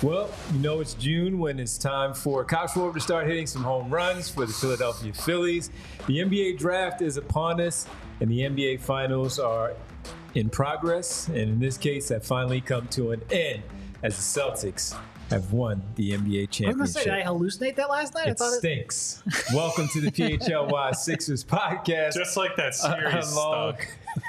Well, you know it's June when it's time for Cox Forward to start hitting some home runs for the Philadelphia Phillies. The NBA draft is upon us, and the NBA finals are in progress, and in this case have finally come to an end as the Celtics have won the NBA championship. I was going to say, did I hallucinate that last night? It stinks. Welcome to the PHLY Sixers podcast. Just like that series stuck.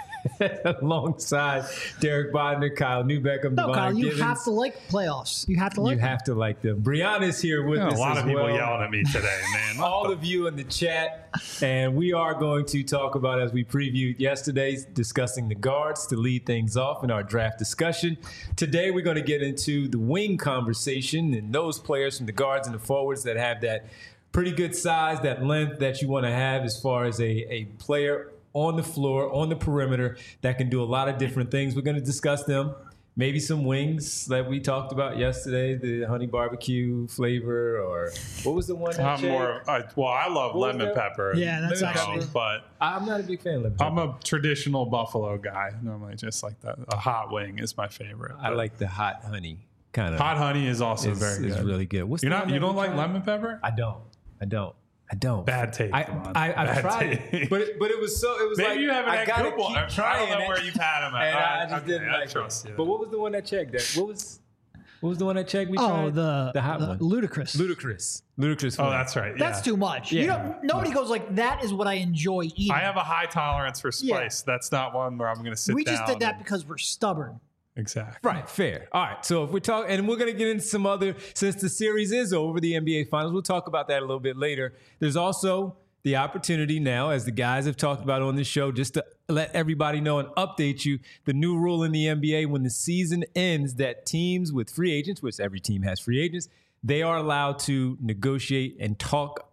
Alongside Derek Bodner, Kyle Newbeck, No, Kyle, you Gibbons. have to like playoffs. You have to like You have to like them. Brianna's here with us. A lot as of people well. yelling at me today, man. All of you in the chat. And we are going to talk about, as we previewed yesterday, discussing the guards to lead things off in our draft discussion. Today, we're going to get into the wing conversation and those players from the guards and the forwards that have that pretty good size, that length that you want to have as far as a player on the floor, on the perimeter, that can do a lot of different things. We're going to discuss them. Maybe some wings that we talked about yesterday, the honey barbecue flavor, or what was the one that I love lemon that? pepper. Yeah, that's actually. But I'm not a big fan of lemon pepper. I'm a traditional Buffalo guy. Normally, just like that. A hot wing is my favorite. I like the hot honey kind of. Hot honey is also very good. It's really good. What's You the one that don't we like tried? lemon pepper? I don't. Bad take. I've tried it, but it was so. It was Maybe like you haven't I had gotta good one. keep I trying don't know it, where you've had them at. and I just Okay, didn't I like trust it. you. But what was the one that checked that? What was the one that checked? We tried the hot one. Ludicrous. Ludicrous. Oh, that's right. That's yeah. too much. Yeah. Nobody goes like, that is what I enjoy eating. I have a high tolerance for spice. Yeah. That's not one where I'm going to sit down. We just did that and- because we're stubborn. Exactly. Right, fair. All right, so if we're talking, and we're going to get into some other, since the series is over, the NBA Finals, we'll talk about that a little bit later. There's also the opportunity now, as the guys have talked about on this show, just to let everybody know and update you, the new rule in the NBA when the season ends, that teams with free agents, which every team has free agents, they are allowed to negotiate and talk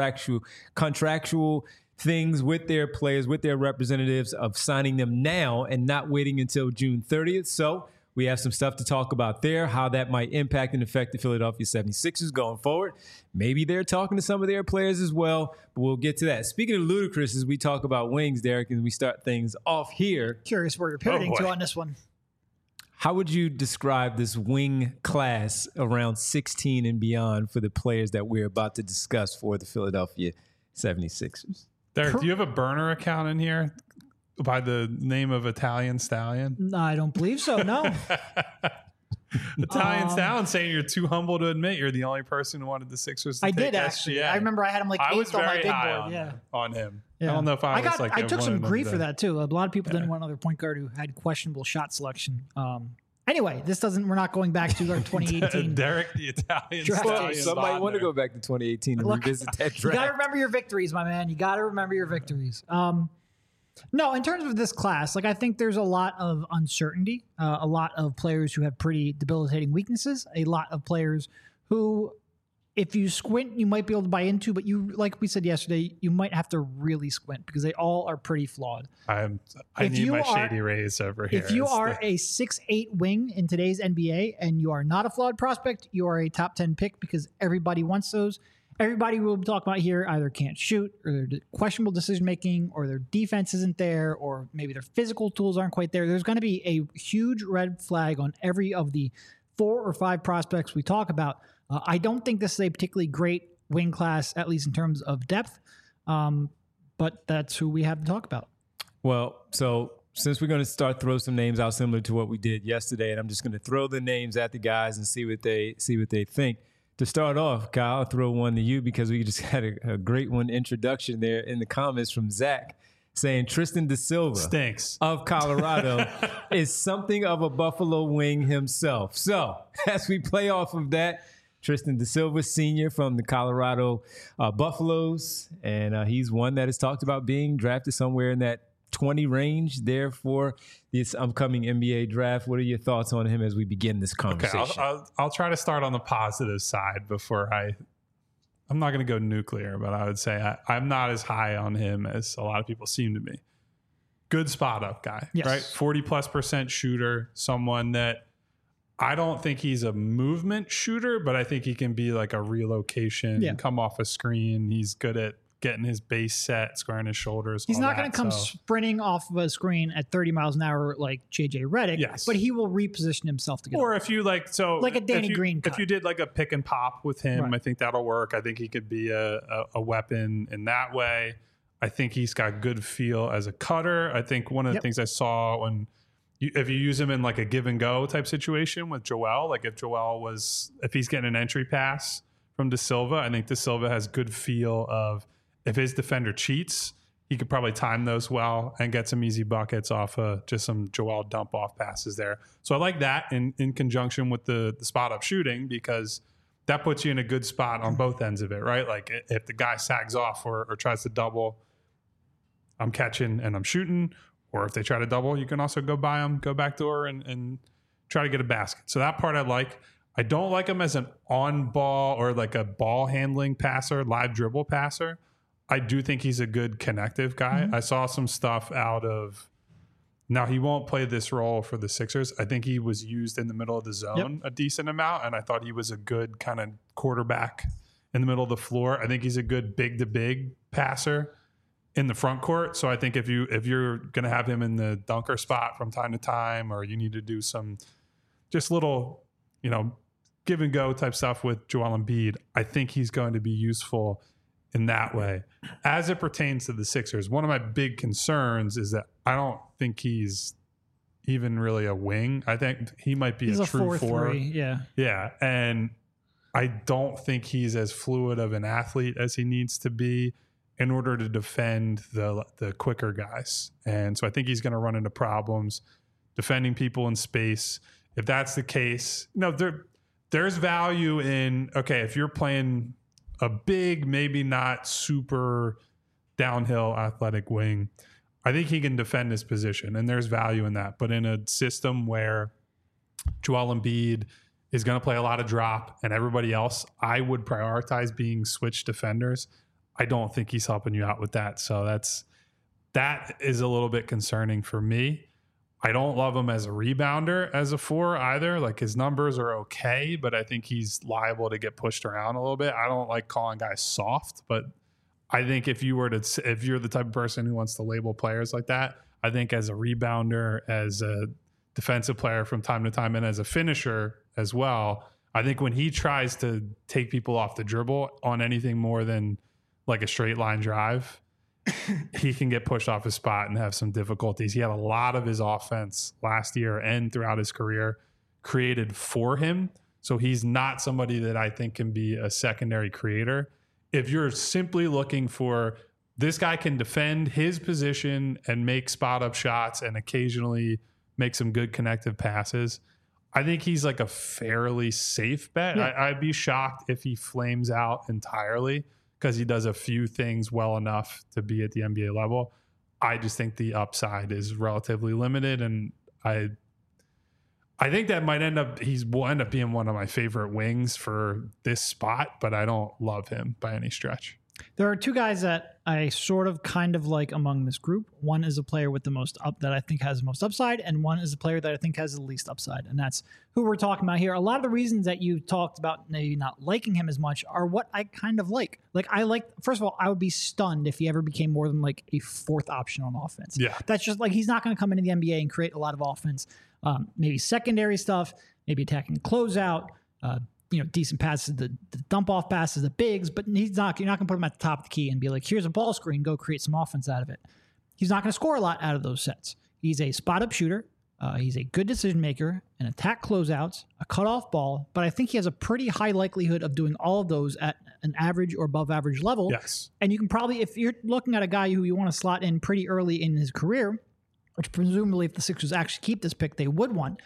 contractual things with their players, with their representatives, of signing them now and not waiting until June 30th. So we have some stuff to talk about there, how that might impact and affect the Philadelphia 76ers going forward. Maybe they're talking to some of their players as well, but we'll get to that. Speaking of ludicrous, as we talk about wings, Derek, and we start things off here, Curious where you're pivoting to on this one. how would you describe this wing class around 16 and beyond for the players that we're about to discuss for the Philadelphia 76ers? Derek, do you have a burner account in here by the name of Italian Stallion? No, I don't believe so. No. Italian Stallion saying you're too humble to admit you're the only person who wanted the Sixers to I take did actually. SGA. I remember I had him like I was eighth on my very big high board. on, Yeah. on him. Yeah. I don't know if I was I took some wanted him grief to- for that too. A lot of people didn't want another point guard who had questionable shot selection. Anyway, we're not going back to our 2018. Derek, the Italian Draft. Well, Stallion. somebody want to Bodner. go back to 2018 and Look, revisit that You got to draft. remember your victories, my man. You got to remember your victories. No, in terms of this class, I think there's a lot of uncertainty, a lot of players who have pretty debilitating weaknesses, a lot of players who, if you squint, you might be able to buy into, but you, like we said yesterday, you might have to really squint because they all are pretty flawed. I If need you my are- shady rays over here. If you It's are a 6'8" wing in today's NBA and you are not a flawed prospect, you are a top 10 pick because everybody wants those. Everybody we'll talk about here either can't shoot, or they're questionable decision making, or their defense isn't there, or maybe their physical tools aren't quite there. There's going to be a huge red flag on every of the 4 or 5 prospects we talk about. I don't think this is a particularly great wing class, at least in terms of depth, but that's who we have to talk about. Well, so since we're going to start throw some names out similar to what we did yesterday, and I'm just going to throw the names at the guys and see what they think. To start off, Kyle, I'll throw one to you because we just had a great one introduction there in the comments from Zach saying Tristan Da Silva stinks. of Colorado is something of a Buffalo wing himself. So as we play off of that, Tristan Da Silva, senior from the Colorado Buffaloes, and he's one that has talked about being drafted somewhere in that 20 range there for this upcoming NBA draft. What are your thoughts on him as we begin this conversation? Okay, I'll try to start on the positive side before I'm not going to go nuclear, but I would say I'm not as high on him as a lot of people seem to be. Good spot up guy, Yes. right? 40+% shooter, someone that I don't think he's a movement shooter, but I think he can be like a relocation, come off a screen. He's good at getting his base set, squaring his shoulders. He's all not going that. to come So- sprinting off of a screen at 30 miles an hour like JJ Redick, Yes. but he will reposition himself to get Or if you like a Danny Green if cut. you did like a pick and pop with him, Right. I think that'll work. I think he could be a weapon in that way. I think he's got good feel as a cutter. I think one of the things I saw when if you use him in like a give and go type situation with Joel, like if he's getting an entry pass from De Silva, I think De Silva has good feel of if his defender cheats, he could probably time those well and get some easy buckets off just some Joel dump off passes there. So I like that in conjunction with the spot up shooting, because that puts you in a good spot on both ends of it, right? Like if the guy sags off or tries to double, I'm catching and I'm shooting. Or if they try to double, you can also go by them, go backdoor and try to get a basket. So that part I like. I don't like him as an on-ball or like a ball handling passer, live dribble passer. I do think he's a good connective guy. Mm-hmm. I saw some stuff out of... Now, he won't play this role for the Sixers. I think he was used in the middle of the zone a decent amount, and I thought he was a good kind of quarterback in the middle of the floor. I think he's a good big-to-big passer in the front court. So I think if you're going to have him in the dunker spot from time to time, or you need to do some just little, give and go type stuff with Joel Embiid, I think he's going to be useful in that way. As it pertains to the Sixers, one of my big concerns is that I don't think he's even really a wing. I think he might be he's a a true 4. Yeah. Yeah. And I don't think he's as fluid of an athlete as he needs to be in order to defend the quicker guys. And so I think he's going to run into problems defending people in space. If that's the case, there's value in, okay, if you're playing a big, maybe not super downhill athletic wing, I think he can defend his position, and there's value in that. But in a system where Joel Embiid is going to play a lot of drop and everybody else, I would prioritize being switch defenders. I don't think he's helping you out with that. So that is a little bit concerning for me. I don't love him as a rebounder as a 4 either. Like, his numbers are okay, but I think he's liable to get pushed around a little bit. I don't like calling guys soft, but I think if you're the type of person who wants to label players like that, I think as a rebounder, as a defensive player from time to time, and as a finisher as well, I think when he tries to take people off the dribble on anything more than like a straight line drive, he can get pushed off his spot and have some difficulties. He had a lot of his offense last year and throughout his career created for him. So he's not somebody that I think can be a secondary creator. If you're simply looking for, this guy can defend his position and make spot up shots and occasionally make some good connective passes, I think he's like a fairly safe bet. Yeah. I'd be shocked if he flames out entirely, because he does a few things well enough to be at the NBA level. I just think the upside is relatively limited, and I think that will end up being one of my favorite wings for this spot, but I don't love him by any stretch. There are 2 guys that I sort of kind of like among this group. One is a player with the most that I think has the most upside, and one is a player that I think has the least upside, and that's who we're talking about here. A lot of the reasons that you talked about maybe not liking him as much are what I kind of like. First of all, I would be stunned if he ever became more than like a 4th option on offense. Yeah. That's just like, he's not going to come into the NBA and create a lot of offense. Maybe secondary stuff, maybe attacking closeout, decent passes, the dump off passes, the bigs, but you're not going to put him at the top of the key and be like, here's a ball screen, go create some offense out of it. He's not going to score a lot out of those sets. He's a spot up shooter. He's a good decision maker, an attack closeouts, a cutoff ball, but I think he has a pretty high likelihood of doing all of those at an average or above average level. Yes. And you can probably, if you're looking at a guy who you want to slot in pretty early in his career, which presumably if the Sixers actually keep this pick, they want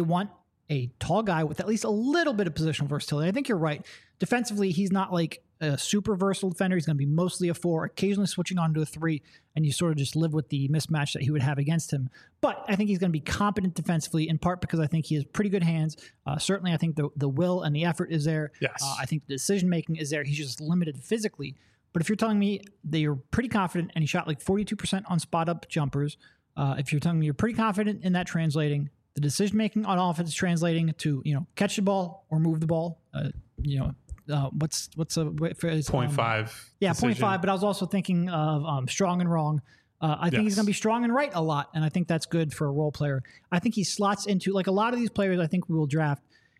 a tall guy with at least a little bit of positional versatility. I think you're right. Defensively, he's not like a super versatile defender. He's going to be mostly a 4, occasionally switching on to a 3, and you sort of just live with the mismatch that he would have against him. But I think he's going to be competent defensively, in part because I think he has pretty good hands. Certainly, I think the will and the effort is there. Yes. I think the decision-making is there. He's just limited physically. But if you're telling me that you're pretty confident, and he shot like 42% on spot-up jumpers, if you're telling me you're pretty confident in that translating, the decision-making on offense translating to, catch the ball or move the ball, what's a for his 0.5. Yeah, decision. 0.5. But I was also thinking of strong and wrong. I think he's going to be strong and right a lot, and I think that's good for a role player. I think he slots into like a lot of these players. I think we will draft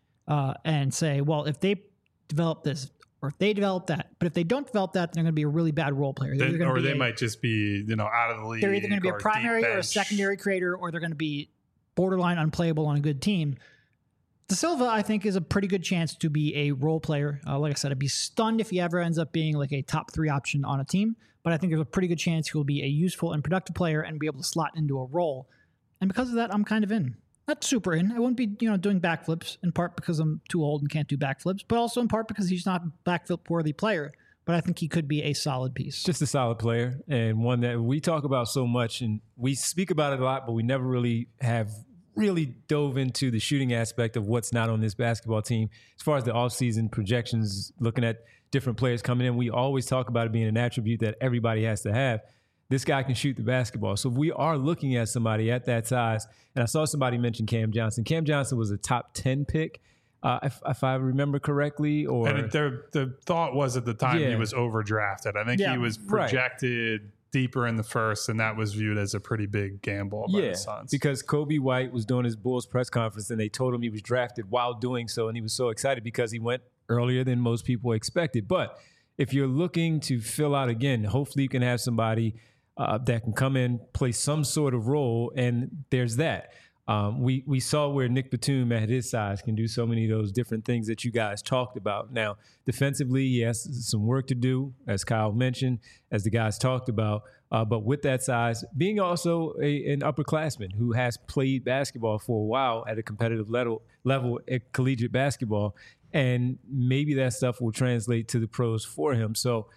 and say, well, if they develop this or if they develop that, but if they don't develop that, then they're going to be a really bad role player. They might just be out of the league. They're either going to be a primary or a secondary creator, or they're going to be borderline unplayable on a good team. De Silva, I think, is a pretty good chance to be a role player. Like I said, I'd be stunned if he ever ends up being like a top 3 option on a team. But I think there's a pretty good chance he'll be a useful and productive player and be able to slot into a role. And because of that, I'm kind of in. Not super in. I won't be, doing backflips, in part because I'm too old and can't do backflips, but also in part because he's not a backflip-worthy player. But I think he could be a solid piece. Just a solid player, and one that we talk about so much, and we speak about it a lot, but we never really have dove into the shooting aspect of what's not on this basketball team. As far as the offseason projections, looking at different players coming in, we always talk about it being an attribute that everybody has to have. This guy can shoot the basketball. So if we are looking at somebody at that size, and I saw somebody mention Cam Johnson. Cam Johnson was a top 10 pick, if I remember correctly. And the thought was at the time he was overdrafted. I think he was projected deeper in the first, and that was viewed as a pretty big gamble by the Suns. Because Kobe White was doing his Bulls press conference, and they told him he was drafted while doing so, and he was so excited because he went earlier than most people expected. But if you're looking to fill out again, hopefully you can have somebody that can come in, play some sort of role, and there's that. We saw where Nick Batum at his size can do so many of those different things that you guys talked about. Now, defensively, he has some work to do, as Kyle mentioned, as the guys talked about. But with that size, being also an upperclassman who has played basketball for a while at a competitive level at collegiate basketball, and maybe that stuff will translate to the pros for him. So,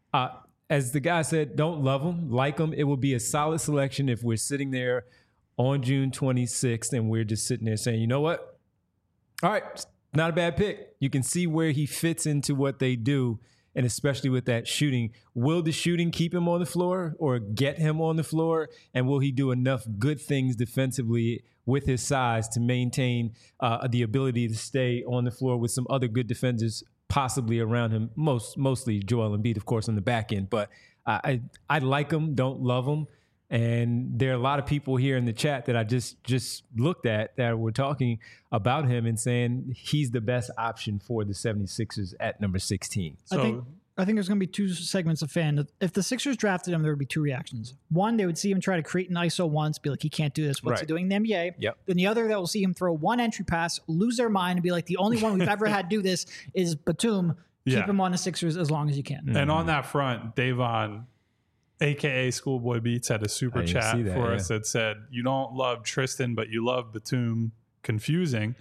as the guy said, don't love him, like him. It will be a solid selection if we're sitting there on June 26th and we're just sitting there saying, you know what? All right, not a bad pick. You can see where he fits into what they do, and especially with that shooting. Will the shooting keep him on the floor or get him on the floor? And will he do enough good things defensively with his size to maintain the ability to stay on the floor with some other good defenders possibly around him, mostly Joel Embiid, of course, on the back end. But I like him, don't love him. And there are a lot of people here in the chat that I just looked at that were talking about him and saying he's the best option for the 76ers at number 16. So I think there's going to be 2 segments of fan. If the Sixers drafted him, there would be 2 reactions. One, they would see him try to create an ISO once, be like, he can't do this. What's he doing in the NBA? Yep. Then the other that will see him throw one entry pass, lose their mind, and be like, the only one we've ever had do this is Batum. Keep him on the Sixers as long as you can. Mm-hmm. And on that front, Davon, a.k.a. Schoolboy Beats, had a super chat for us that said, you don't love Tristan, but you love Batum. Confusing.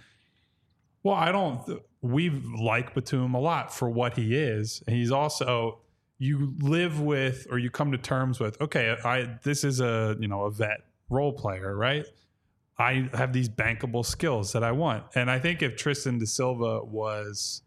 Well, we like Batum a lot for what he is. And he's also, you live with, or you come to terms with, okay, this is a vet role player, right? I have these bankable skills that I want. And I think if Tristan de Silva was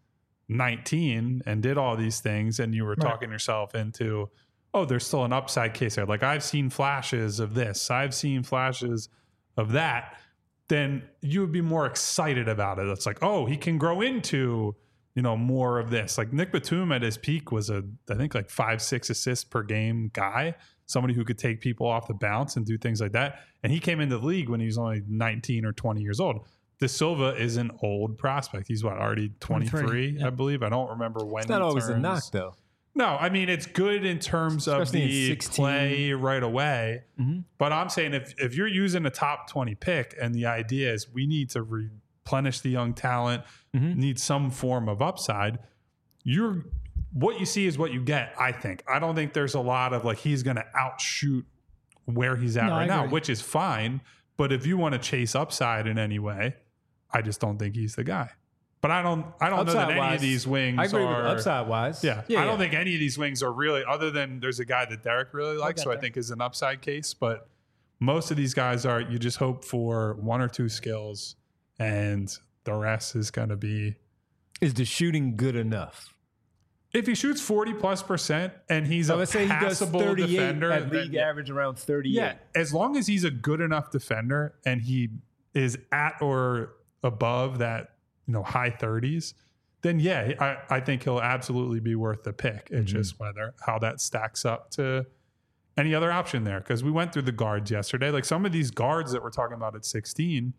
19 and did all these things, and you were talking yourself into, oh, there's still an upside case there. Like, I've seen flashes of this, I've seen flashes of that, then you would be more excited about it. It's like, oh, he can grow into, more of this. Like Nick Batum at his peak was I think 5-6 assists per game guy, somebody who could take people off the bounce and do things like that. And he came into the league when he was only 19 or 20 years old. De Silva is an old prospect. He's already 23, I believe. I don't remember when. It's not always a knock, though. No, I mean, it's good in terms especially of the play right away. Mm-hmm. But I'm saying if you're using a top 20 pick and the idea is we need to replenish the young talent, need some form of upside, what you see is what you get, I think. I don't think there's a lot of he's going to outshoot where he's at right now, which is fine. But if you want to chase upside in any way, I just don't think he's the guy. But I don't know that any of these wings I agree are with upside wise. Yeah, I don't think any of these wings are really, other than there's a guy that Derek really likes, who I think is an upside case. But most of these guys are, you just hope for 1 or 2 skills, and the rest is going to be. Is the shooting good enough? If he shoots 40+% and he's let's say he does 38 defender, at league average around 38. Yeah, as long as he's a good enough defender and he is at or above that, high 30s, then yeah, I think he'll absolutely be worth the pick. It's just how that stacks up to any other option there. Because we went through the guards yesterday. Like some of these guards that we're talking about at 16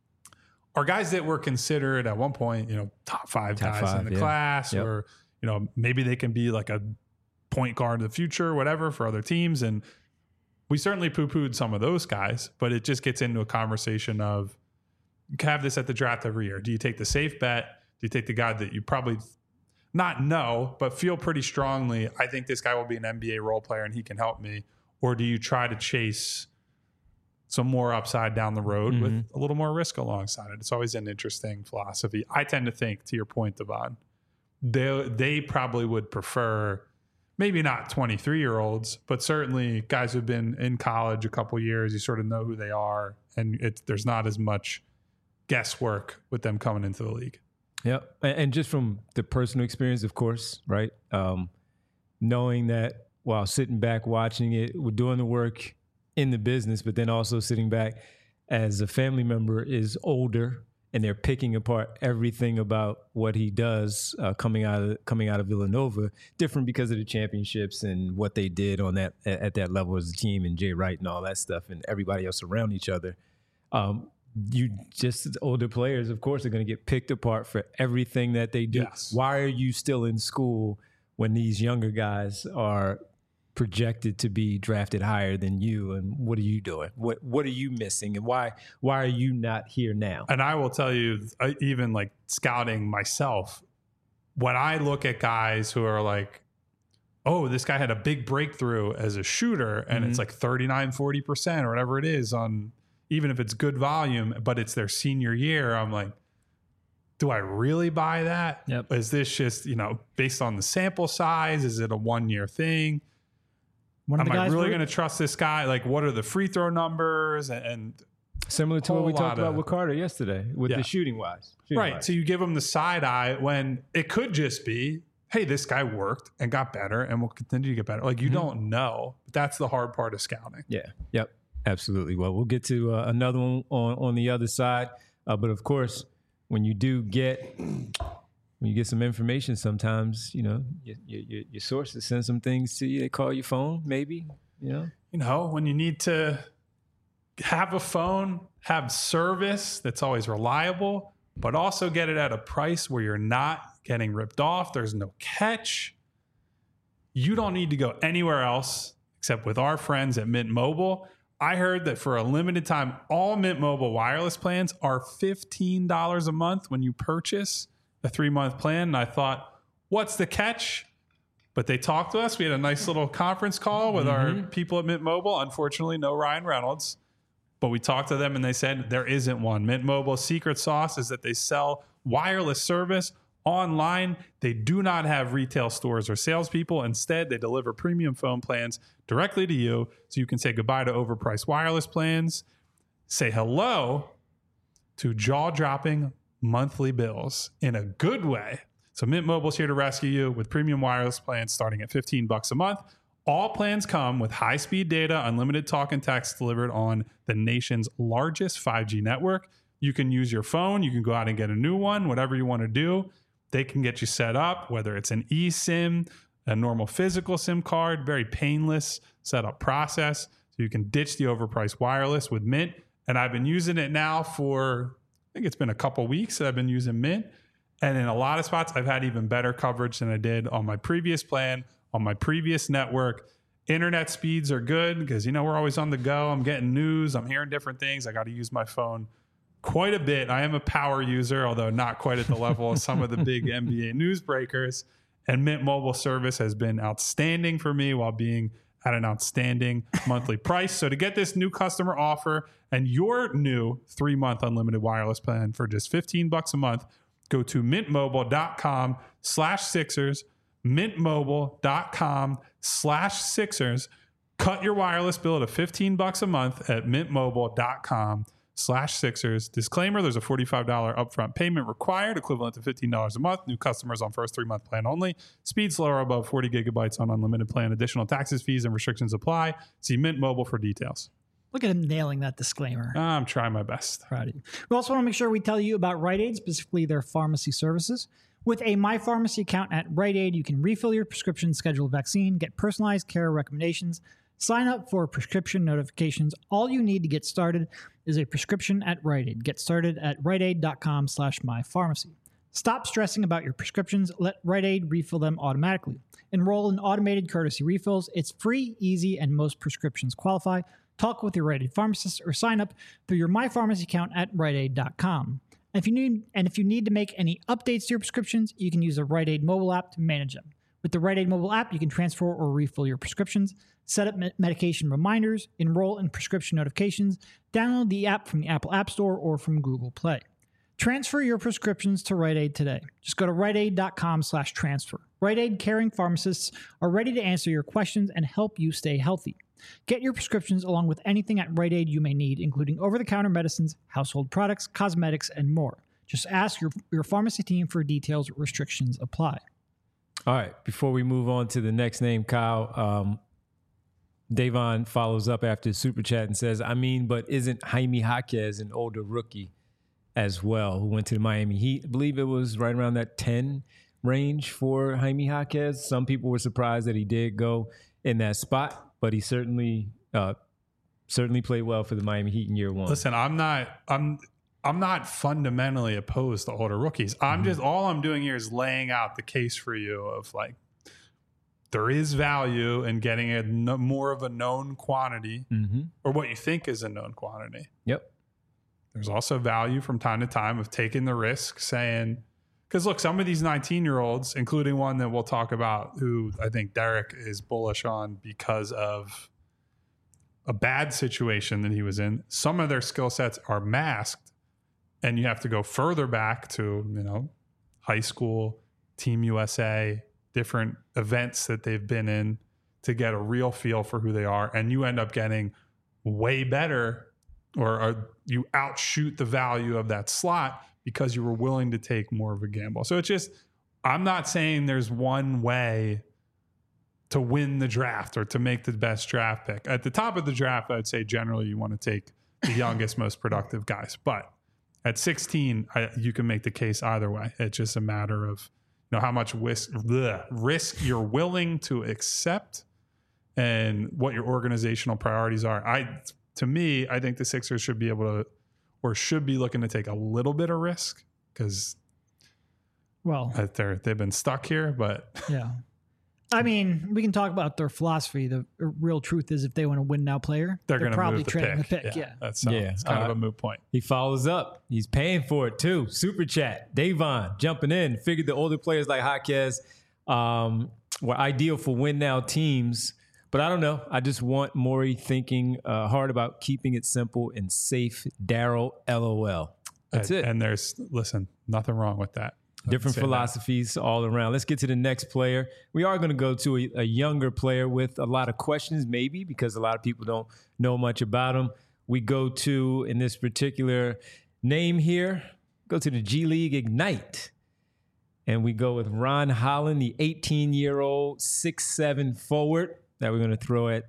are guys that were considered at one point, top five guys in the class, or, maybe they can be like a point guard in the future, whatever, for other teams. And we certainly poo-pooed some of those guys, but it just gets into a conversation of, you have this at the draft every year. Do you take the safe bet? Do you take the guy that you probably not know, but feel pretty strongly, I think this guy will be an NBA role player and he can help me? Or do you try to chase some more upside down the road with a little more risk alongside it? It's always an interesting philosophy. I tend to think, to your point, Devon, they probably would prefer maybe not 23-year-olds, but certainly guys who've been in college a couple years. You sort of know who they are, and there's not as much guesswork with them coming into the league. Yeah, and just from the personal experience, of course, right? Knowing that while sitting back watching it, we're doing the work in the business, but then also sitting back as a family member is older, and they're picking apart everything about what he does coming out of Villanova, different because of the championships and what they did on that at that level as a team, and Jay Wright and all that stuff, and everybody else around each other. You just as older players, of course, are going to get picked apart for everything that they do. Yes. Why are you still in school when these younger guys are projected to be drafted higher than you? And what are you doing? What are you missing? And why are you not here now? And I will tell you, even like scouting myself, when I look at guys who are like, oh, this guy had a big breakthrough as a shooter, and it's like 39-40% or whatever it is on, even if it's good volume, but it's their senior year, I'm like, do I really buy that? Yep. Is this just, based on the sample size? Is it a 1-year thing? Am I really going to trust this guy? Like, what are the free throw numbers? And similar to what we talked about with Carter yesterday with the shooting wise. Right. So you give him the side eye when it could just be, hey, this guy worked and got better and will continue to get better. Like, you don't know. But that's the hard part of scouting. Yeah. Yep. Absolutely. Well, we'll get to another one on the other side. But of course, when you get some information, sometimes, your sources send some things to you. They call your phone, maybe, when you need to have a phone, have service that's always reliable, but also get it at a price where you're not getting ripped off. There's no catch. You don't need to go anywhere else except with our friends at Mint Mobile. I heard that for a limited time, all Mint Mobile wireless plans are $15 a month when you purchase a 3-month plan. And I thought, what's the catch? But they talked to us. We had a nice little conference call with our people at Mint Mobile. Unfortunately, no Ryan Reynolds. But we talked to them and they said there isn't one. Mint Mobile's secret sauce is that they sell wireless service online. They do not have retail stores or salespeople. Instead, they deliver premium phone plans directly to you so you can say goodbye to overpriced wireless plans, say hello to jaw-dropping monthly bills in a good way. So Mint Mobile's here to rescue you with premium wireless plans starting at $15 a month. All plans come with high-speed data, unlimited talk and text delivered on the nation's largest 5G network. You can use your phone. You can go out and get a new one, whatever you want to do. They can get you set up, whether it's an eSIM, a normal physical SIM card, very painless setup process. So you can ditch the overpriced wireless with Mint. And I've been using it now for, I think it's been a couple weeks that I've been using Mint. And in a lot of spots, I've had even better coverage than I did on my previous plan, on my previous network. Internet speeds are good because, we're always on the go. I'm getting news. I'm hearing different things. I got to use my phone quite a bit. I am a power user, although not quite at the level of some of the big NBA news breakers. And Mint Mobile service has been outstanding for me while being at an outstanding monthly price. So to get this new customer offer and your new 3-month unlimited wireless plan for just $15 a month, go to mintmobile.com/Sixers, mintmobile.com/Sixers. Cut your wireless bill to $15 a month at mintmobile.com/Sixers. Disclaimer, there's a $45 upfront payment required, equivalent to $15 a month. New customers on first 3-month plan only. Speed slower above 40 gigabytes on unlimited plan. Additional taxes, fees, and restrictions apply. See Mint Mobile for details. Look at him nailing that disclaimer. I'm trying my best. Proud of you. We also want to make sure we tell you about Rite Aid, specifically their pharmacy services. With a MyPharmacy account at Rite Aid, you can refill your prescription, schedule a vaccine, get personalized care recommendations, sign up for prescription notifications. All you need to get started is a prescription at Rite Aid. Get started at riteaid.com/mypharmacy. Stop stressing about your prescriptions. Let Rite Aid refill them automatically. Enroll in automated courtesy refills. It's free, easy, and most prescriptions qualify. Talk with your Rite Aid pharmacist or sign up through your MyPharmacy account at riteaid.com. If you need to make any updates to your prescriptions, you can use the Rite Aid mobile app to manage them. With the Rite Aid mobile app, you can transfer or refill your prescriptions, set up medication reminders, enroll in prescription notifications, download the app from the Apple App Store or from Google Play. Transfer your prescriptions to Rite Aid today. Just go to riteaid.com/transfer. Rite Aid caring pharmacists are ready to answer your questions and help you stay healthy. Get your prescriptions along with anything at Rite Aid you may need, including over-the-counter medicines, household products, cosmetics, and more. Just ask your pharmacy team for details. Restrictions apply. All right. Before we move on to the next name, Kyle, Davon follows up after the super chat and says, but isn't Jaime Jaquez an older rookie as well who went to the Miami Heat? I believe it was right around that 10 range for Jaime Jaquez. Some people were surprised that he did go in that spot, but he certainly played well for the Miami Heat in year one. Listen, I'm not fundamentally opposed to older rookies. All I'm doing here is laying out the case for you of like, there is value in getting more of a known quantity or what you think is a known quantity. Yep. There's also value from time to time of taking the risk, saying, because look, some of these 19-year-olds, including one that we'll talk about, who I think Derek is bullish on because of a bad situation that he was in, some of their skill sets are masked, and you have to go further back to, high school, Team USA, different events that they've been in to get a real feel for who they are. And you end up getting way better or you outshoot the value of that slot because you were willing to take more of a gamble. So it's just, I'm not saying there's one way to win the draft or to make the best draft pick. At the top of the draft, I'd say generally you want to take the youngest, most productive guys. But at 16, you can make the case either way. It's just a matter of how much risk you're willing to accept and what your organizational priorities are. To me, I think the Sixers should be able to, or should be looking to take a little bit of risk because, they've been stuck here. But yeah, we can talk about their philosophy. The real truth is, if they want to win now player, they're going to probably move trading the pick. Yeah. It's kind of a moot point. He follows up. He's paying for it too. Super chat. Davon jumping in. Figured the older players like Jaquez were ideal for win now teams. But I don't know. I just want Morey thinking hard about keeping it simple and safe. Daryl, LOL. That's it. And nothing wrong with that. Different philosophies all around. Let's get to the next player. We are going to go to a younger player with a lot of questions, maybe, because a lot of people don't know much about him. We go to, in this particular name here, go to the G League Ignite. And we go with Ron Holland, the 18-year-old 6'7" forward that we're going to throw at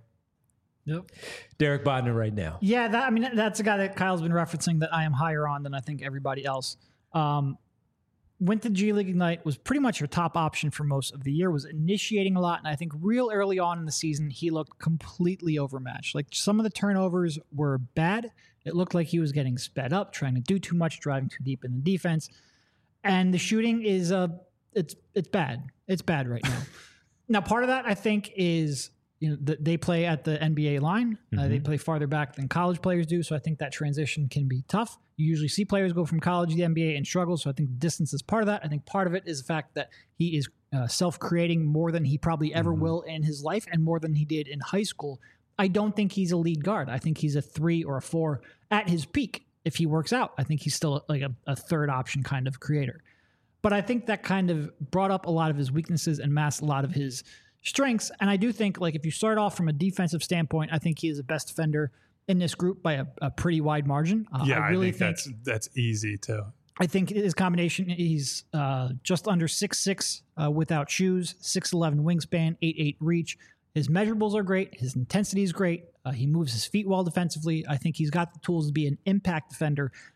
Derek Bodner right now. Yeah, that's a guy that Kyle's been referencing that I am higher on than I think everybody else. Went to G League Ignite, was pretty much your top option for most of the year, was initiating a lot, and I think real early on in the season, he looked completely overmatched. Like, some of the turnovers were bad. It looked like he was getting sped up, trying to do too much, driving too deep in the defense. And the shooting is, it's bad. It's bad right now. Now, part of that, I think, is they play at the NBA line. They play farther back than college players do, so I think that transition can be tough. You usually see players go from college to the NBA and struggle, so I think distance is part of that. I think part of it is the fact that he is self-creating more than he probably ever will in his life and more than he did in high school. I don't think he's a lead guard. I think he's a 3 or a 4 at his peak. If he works out, I think he's still like a third option kind of creator. But I think that kind of brought up a lot of his weaknesses and masked a lot of his strengths. And I do think, like, if you start off from a defensive standpoint, I think he is the best defender in this group by a pretty wide margin. I really think that's easy too. I think his combination, he's just under 6'6" without shoes, 6'11" wingspan, 8'8" reach. His measurables are great. His intensity is great. He moves his feet well defensively. I think he's got the tools to be an impact defender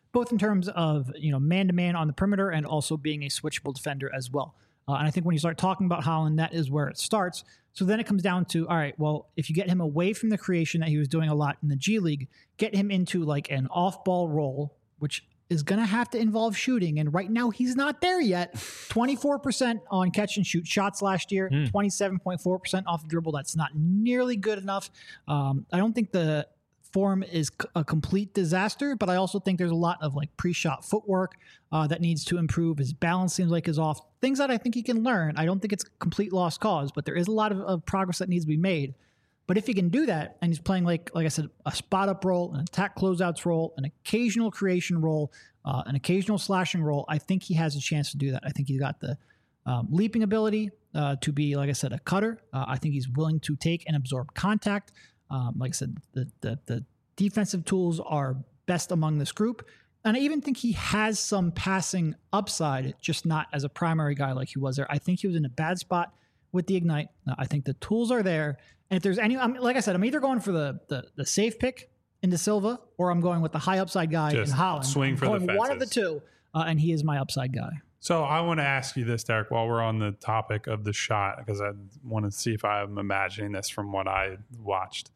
both in terms of, man-to-man on the perimeter and also being a switchable defender as well. And I think when you start talking about Holland, that is where it starts. So then it comes down to, all right, well, if you get him away from the creation that he was doing a lot in the G League, get him into like an off-ball role, which is going to have to involve shooting. And right now he's not there yet. 24% on catch and shoot shots last year, 27.4% off the dribble. That's not nearly good enough. I don't think the form is a complete disaster, but I also think there's a lot of like pre-shot footwork that needs to improve. His balance seems like is off. Things that I think he can learn. I don't think it's a complete lost cause, but there is a lot of progress that needs to be made. But if he can do that, and he's playing, like I said, a spot-up role, an attack closeouts role, an occasional creation role, an occasional slashing role, I think he has a chance to do that. I think he's got the leaping ability to be, like I said, a cutter. I think he's willing to take and absorb contact. Like I said, the defensive tools are best among this group. And I even think he has some passing upside, just not as a primary guy like he was there. I think he was in a bad spot with the Ignite. I think the tools are there. And if there's any, like I said, I'm either going for the safe pick into Silva, or I'm going with the high upside guy in Holland. Swing for the fences. One of the two, and he is my upside guy. So I want to ask you this, Derek, while we're on the topic of the shot, because I want to see if I'm imagining this from what I watched.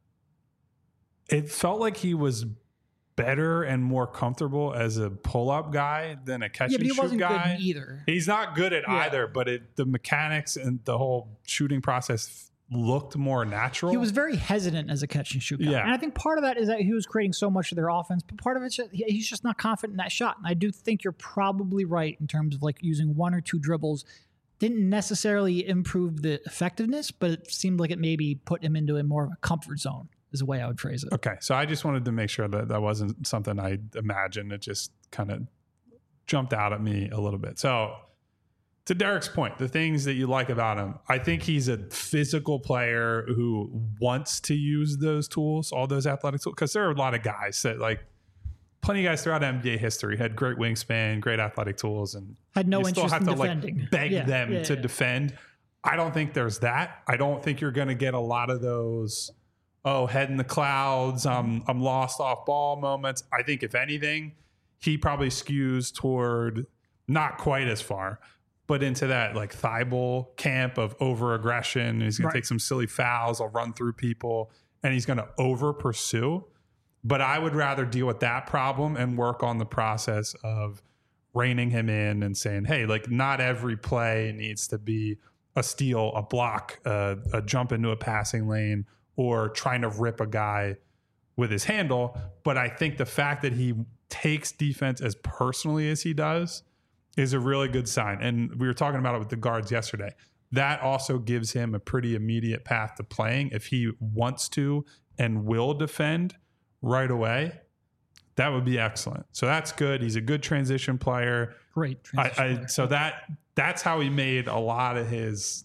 It felt like he was better and more comfortable as a pull-up guy than a catch and shoot guy. But he wasn't good either. He's not good at either, but the mechanics and the whole shooting process looked more natural. He was very hesitant as a catch and shoot guy. Yeah. And I think part of that is that he was creating so much of their offense, but part of it's he's just not confident in that shot. And I do think you're probably right in terms of like using one or two dribbles didn't necessarily improve the effectiveness, but it seemed like it maybe put him into a more of a comfort zone is the way I would phrase it. Okay. So I just wanted to make sure that that wasn't something I imagined. It just kind of jumped out at me a little bit. So to Derek's point, the things that you like about him, I think he's a physical player who wants to use those tools, all those athletic tools, because there are a lot of guys that like plenty of guys throughout NBA history had great wingspan, great athletic tools, and had no you still interest have in to defending. like beg them to defend. I don't think there's that. I don't think you're going to get a lot of those, head in the clouds, I'm lost off ball moments. I think if anything, he probably skews toward not quite as far, but into that like Thibault camp of over aggression. He's going to take some silly fouls. I'll run through people, and he's going to over pursue. But I would rather deal with that problem and work on the process of reining him in and saying, hey, like not every play needs to be a steal, a block, a jump into a passing lane, or trying to rip a guy with his handle. But I think the fact that he takes defense as personally as he does is a really good sign. And we were talking about it with the guards yesterday. That also gives him a pretty immediate path to playing. If he wants to and will defend right away, that would be excellent. So that's good. He's a good transition player. Great transition player. So that's how he made a lot of his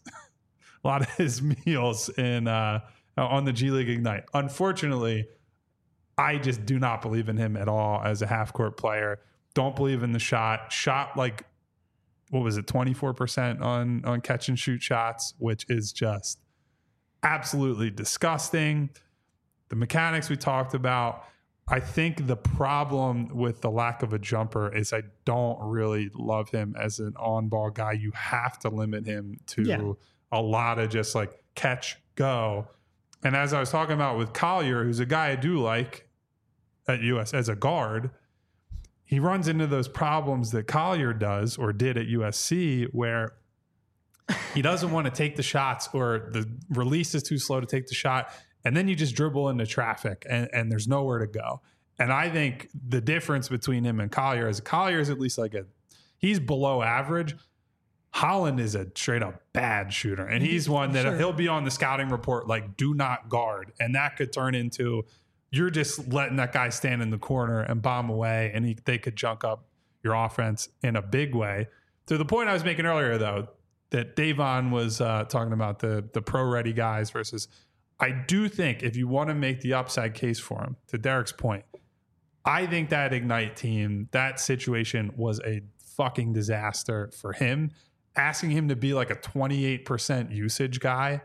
meals in on the G League Ignite. Unfortunately, I just do not believe in him at all as a half court player. Don't believe in the shot. Shot like, what was it, 24% on catch and shoot shots, which is just absolutely disgusting. The mechanics we talked about. I think the problem with the lack of a jumper is I don't really love him as an on-ball guy. You have to limit him to a lot of just like catch, go. And as I was talking about with Collier, who's a guy I do like at US as a guard, he runs into those problems that Collier does or did at USC, where he doesn't want to take the shots, or the release is too slow to take the shot. And then you just dribble into traffic and there's nowhere to go. And I think the difference between him and Collier is Collier is at least like he's below average. Holland is a straight up bad shooter. And he's one that he'll be on the scouting report like, do not guard. And that could turn into, you're just letting that guy stand in the corner and bomb away, and they could junk up your offense in a big way. To the point I was making earlier, though, that Davon was talking about the pro-ready guys versus, I do think if you want to make the upside case for him, to Derek's point, I think that Ignite team, that situation was a fucking disaster for him. Asking him to be like a 28% usage guy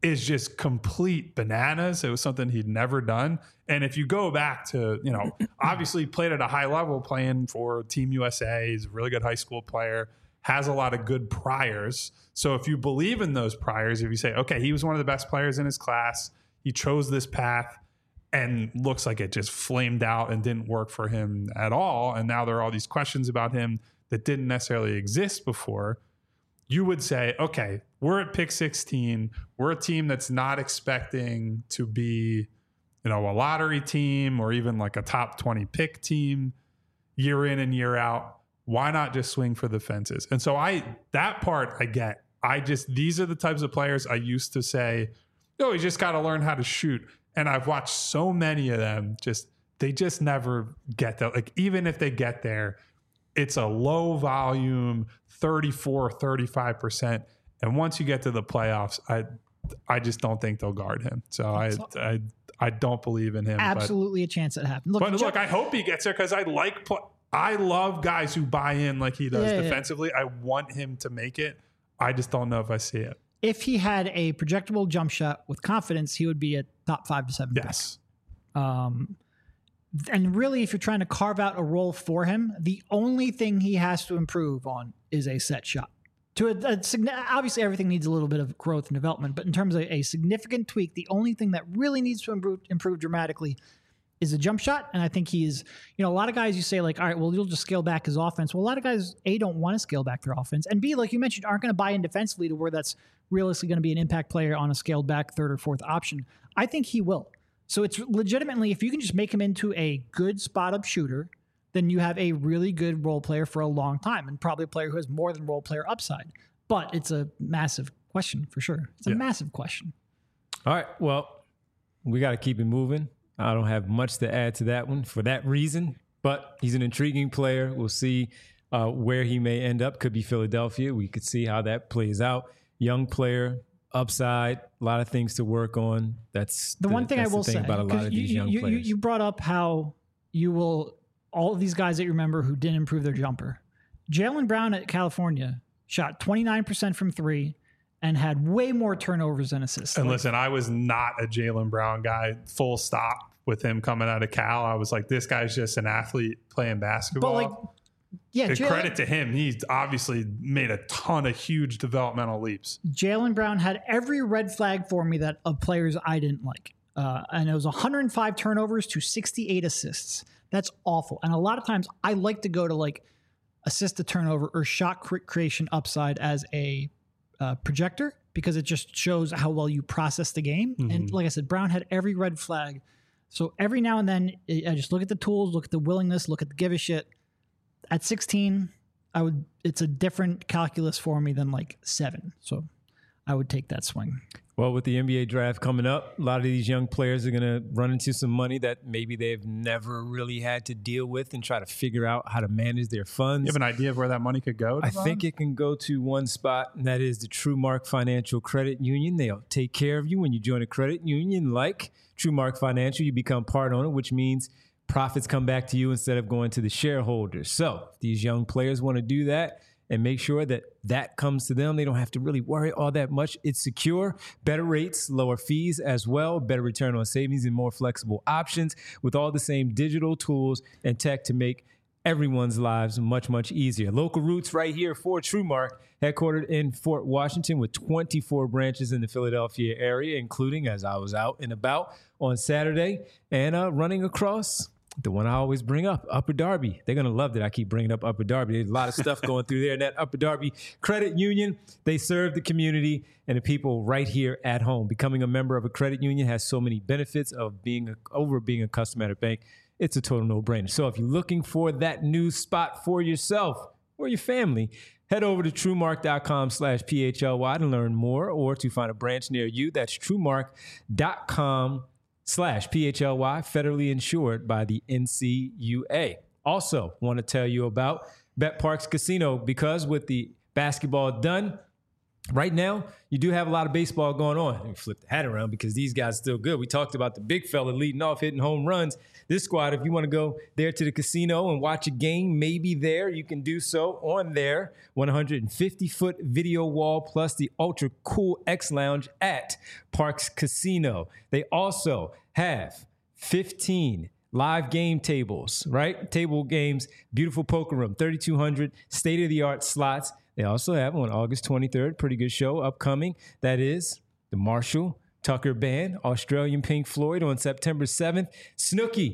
is just complete bananas. It was something he'd never done. And if you go back to, obviously played at a high level playing for Team USA, he's a really good high school player, has a lot of good priors. So if you believe in those priors, if you say, okay, he was one of the best players in his class, he chose this path, and looks like it just flamed out and didn't work for him at all, and now there are all these questions about him that didn't necessarily exist before, you would say, okay, we're at pick 16. We're a team that's not expecting to be, a lottery team or even like a top 20 pick team year in and year out. Why not just swing for the fences? And so that part I get. These are the types of players I used to say, you just got to learn how to shoot. And I've watched so many of them, they just never get there. Like, even if they get there, it's a low volume, 34, 35%. And once you get to the playoffs, I just don't think they'll guard him. So I don't believe in him. Absolutely a chance that happens. Look, I hope he gets there because I love guys who buy in like he does defensively. Yeah. I want him to make it. I just don't know if I see it. If he had a projectable jump shot with confidence, he would be a top 5 to 7 Yes. pick. And really, if you're trying to carve out a role for him, the only thing he has to improve on is a set shot. Obviously, everything needs a little bit of growth and development, but in terms of a significant tweak, the only thing that really needs to improve dramatically is a jump shot. And I think he's, a lot of guys you say like, all right, well, you'll just scale back his offense. Well, a lot of guys, A, don't want to scale back their offense, and B, like you mentioned, aren't going to buy in defensively to where that's realistically going to be an impact player on a scaled back third or fourth option. I think he will. So it's legitimately, if you can just make him into a good spot up shooter, then you have a really good role player for a long time, and probably a player who has more than role player upside. But it's a massive question for sure. It's a massive question. All right. Well, we got to keep it moving. I don't have much to add to that one for that reason, but he's an intriguing player. We'll see where he may end up. Could be Philadelphia. We could see how that plays out. Young player, upside, a lot of things to work on. That's the one thing I will say about a lot of these young players. You brought up how you will, all of these guys that you remember who didn't improve their jumper. Jaylen Brown at California shot 29% from 3 and had way more turnovers than assists. And listen, I was not a Jaylen Brown guy, full stop, with him coming out of Cal. I was like, this guy's just an athlete playing basketball. But credit to him. He's obviously made a ton of huge developmental leaps. Jaylen Brown had every red flag for me that of players I didn't like. And it was 105 turnovers to 68 assists. That's awful. And a lot of times I like to go to like assist to turnover or shot creation upside as a projector, because it just shows how well you process the game. Mm-hmm. And like I said, Brown had every red flag. So every now and then I just look at the tools, look at the willingness, look at the give a shit. At 16, it's a different calculus for me than like 7. So I would take that swing. Well, with the NBA draft coming up, a lot of these young players are going to run into some money that maybe they've never really had to deal with and try to figure out how to manage their funds. You have an idea of where that money could go? I think it can go to one spot, and that is the TrueMark Financial Credit Union. They'll take care of you when you join a credit union like TrueMark Financial. You become part owner, which means profits come back to you instead of going to the shareholders. So if these young players want to do that and make sure that that comes to them, they don't have to really worry all that much. It's secure, better rates, lower fees as well, better return on savings, and more flexible options with all the same digital tools and tech to make everyone's lives much, much easier. Local roots right here for TrueMark, headquartered in Fort Washington with 24 branches in the Philadelphia area, including, as I was out and about on Saturday, and running across the one I always bring up, Upper Darby. They're going to love that I keep bringing up Upper Darby. There's a lot of stuff going through there. And that Upper Darby Credit Union, they serve the community and the people right here at home. Becoming a member of a credit union has so many benefits of being a customer at a bank. It's a total no-brainer. So if you're looking for that new spot for yourself or your family, head over to TrueMark.com/PHLY to learn more, or to find a branch near you. That's TrueMark.com/PHLY, federally insured by the NCUA. Also, want to tell you about Bet Parks Casino, because with the basketball done, Right now, you do have a lot of baseball going on. Let me flip the hat around because these guys are still good. We talked about the big fella leading off, hitting home runs. This squad, if you want to go there to the casino and watch a game, maybe there, you can do so on their 150-foot video wall plus the ultra cool X Lounge at Parx Casino. They also have 15 live game tables, right? Table games, beautiful poker room, 3,200 state-of-the-art slots. They also have on August 23rd, pretty good show upcoming. That is the Marshall Tucker Band, Australian Pink Floyd on September 7th. Snooki,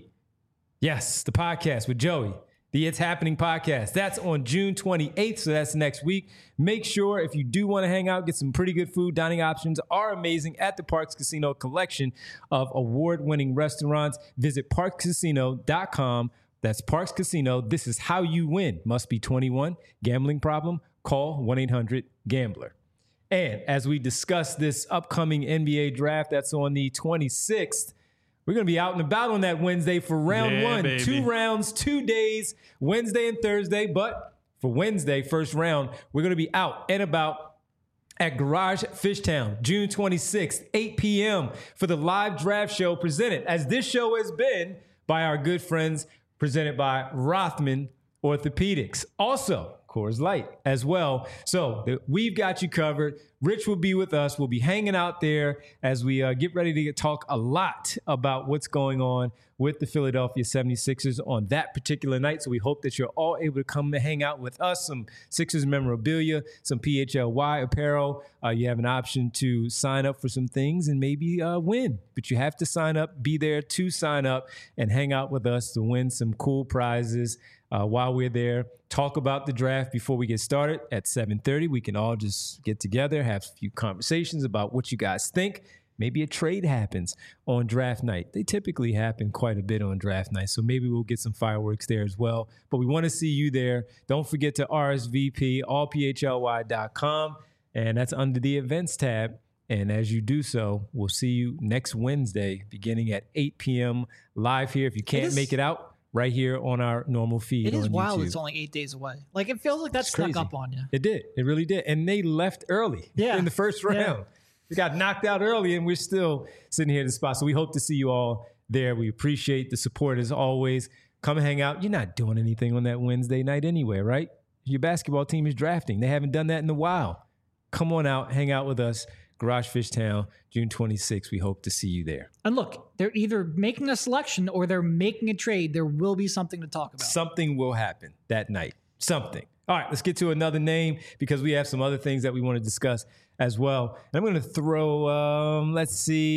yes, the podcast with Joey, the It's Happening podcast. That's on June 28th, so that's next week. Make sure if you do want to hang out, get some pretty good food. Dining options are amazing at the Parx Casino collection of award-winning restaurants. Visit parxcasino.com. That's Parx Casino. This is how you win. Must be 21. Gambling problem? Call 1-800-GAMBLER. And as we discuss this upcoming NBA draft that's on the 26th, we're going to be out and about on that Wednesday for round one. Baby. 2 rounds, 2 days, Wednesday and Thursday. But for Wednesday, first round, we're going to be out and about at Garage Fishtown, June 26th, 8 p.m. for the live draft show presented, as this show has been, by our good friends, presented by Rothman Orthopedics. Also, Coors Light as well. So we've got you covered. Rich will be with us. We'll be hanging out there as we get ready to talk a lot about what's going on with the Philadelphia 76ers on that particular night. So we hope that you're all able to come and hang out with us. Some Sixers memorabilia, some PHLY apparel. You have an option to sign up for some things and maybe win. But you have to sign up, be there to sign up, and hang out with us to win some cool prizes. While we're there, talk about the draft before we get started at 7:30. We can all just get together, have a few conversations about what you guys think. Maybe a trade happens on draft night. They typically happen quite a bit on draft night, so maybe we'll get some fireworks there as well. But we want to see you there. Don't forget to RSVP, allphly.com, and that's under the events tab. And as you do so, we'll see you next Wednesday beginning at 8 p.m. live here. If you can't make it out, right here on our normal feed. It is on wild. YouTube. It's only 8 days away. Like, it feels like that snuck up on you. It did. It really did. And they left early in the first round. Yeah. We got knocked out early, and we're still sitting here in the spot. So we hope to see you all there. We appreciate the support as always. Come and hang out. You're not doing anything on that Wednesday night anyway, right? Your basketball team is drafting. They haven't done that in a while. Come on out. Hang out with us. Garage Fishtown, June 26th. We hope to see you there. And look, they're either making a selection or they're making a trade. There will be something to talk about. Something will happen that night. Something. All right, let's get to another name because we have some other things that we want to discuss as well. And I'm going to throw, let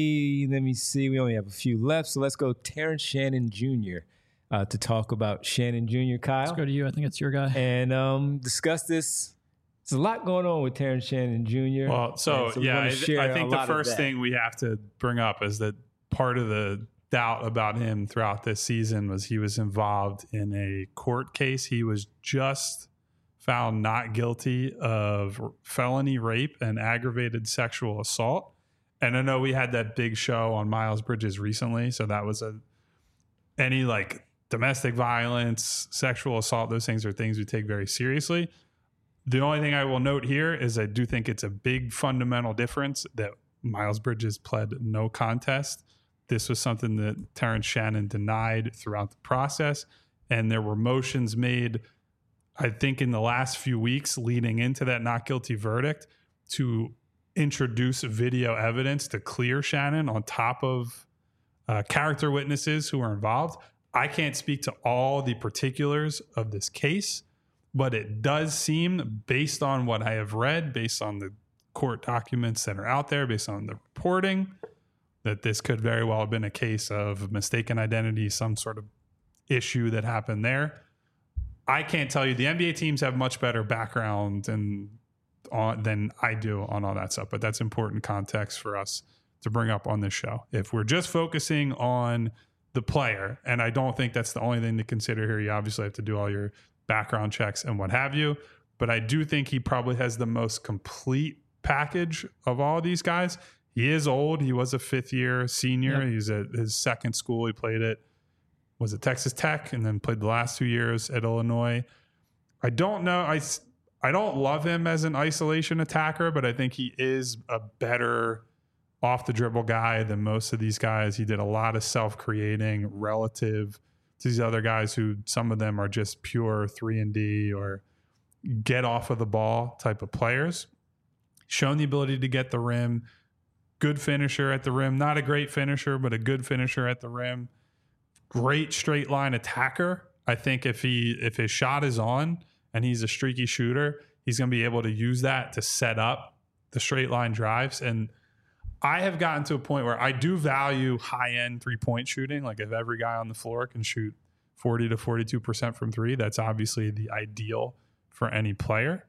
me see. We only have a few left. So let's go Terrence Shannon Jr. To talk about Shannon Jr., Kyle. Let's go to you. I think it's your guy. And discuss this. There's a lot going on with Terrence Shannon Jr. Well, so yeah, I think the first thing we have to bring up is that part of the doubt about him throughout this season was he was involved in a court case. He was just found not guilty of felony rape and aggravated sexual assault. And I know we had that big show on Miles Bridges recently. So that was any like domestic violence, sexual assault, those things are things we take very seriously. The only thing I will note here is I do think it's a big fundamental difference that Miles Bridges pled no contest. This was something that Terrence Shannon denied throughout the process. And there were motions made, I think, in the last few weeks leading into that not guilty verdict to introduce video evidence to clear Shannon on top of character witnesses who were involved. I can't speak to all the particulars of this case, but it does seem, based on what I have read, based on the court documents that are out there, based on the reporting, that this could very well have been a case of mistaken identity, some sort of issue that happened there. I can't tell you. The NBA teams have much better background than I do on all that stuff, but that's important context for us to bring up on this show. If we're just focusing on the player, and I don't think that's the only thing to consider here, you obviously have to do all your background checks and what have you, but I do think he probably has the most complete package of all of these guys. He is old. He was a fifth-year senior. Yep. He's at his second school. He played at Texas Tech and then played the last 2 years at Illinois. I don't know. I don't love him as an isolation attacker, but I think he is a better off the dribble guy than most of these guys. He did a lot of self-creating relative to these other guys who some of them are just pure 3-and-D or get off of the ball type of players. Shown the ability to get the rim, good finisher at the rim, not a great finisher, but a good finisher at the rim. Great straight line attacker. I think if his shot is on and he's a streaky shooter, he's going to be able to use that to set up the straight line drives. And I have gotten to a point where I do value high-end three-point shooting. Like if every guy on the floor can shoot 40 to 42% from three, that's obviously the ideal for any player.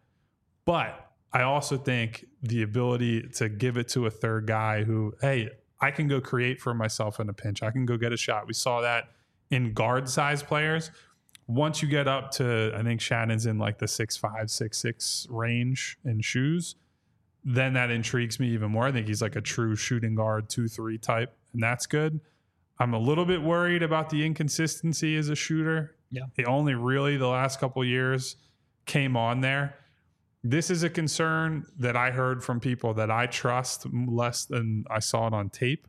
But I also think the ability to give it to a third guy who, hey, I can go create for myself in a pinch. I can go get a shot. We saw that in guard-size players. Once you get up to, I think Shannon's in like the 6'5", 6'6" range in shoes, then that intrigues me even more. I think he's like a true shooting guard, 2-3 type, and that's good. I'm a little bit worried about the inconsistency as a shooter. Yeah. He only really the last couple of years came on there. This is a concern that I heard from people that I trust less than I saw it on tape.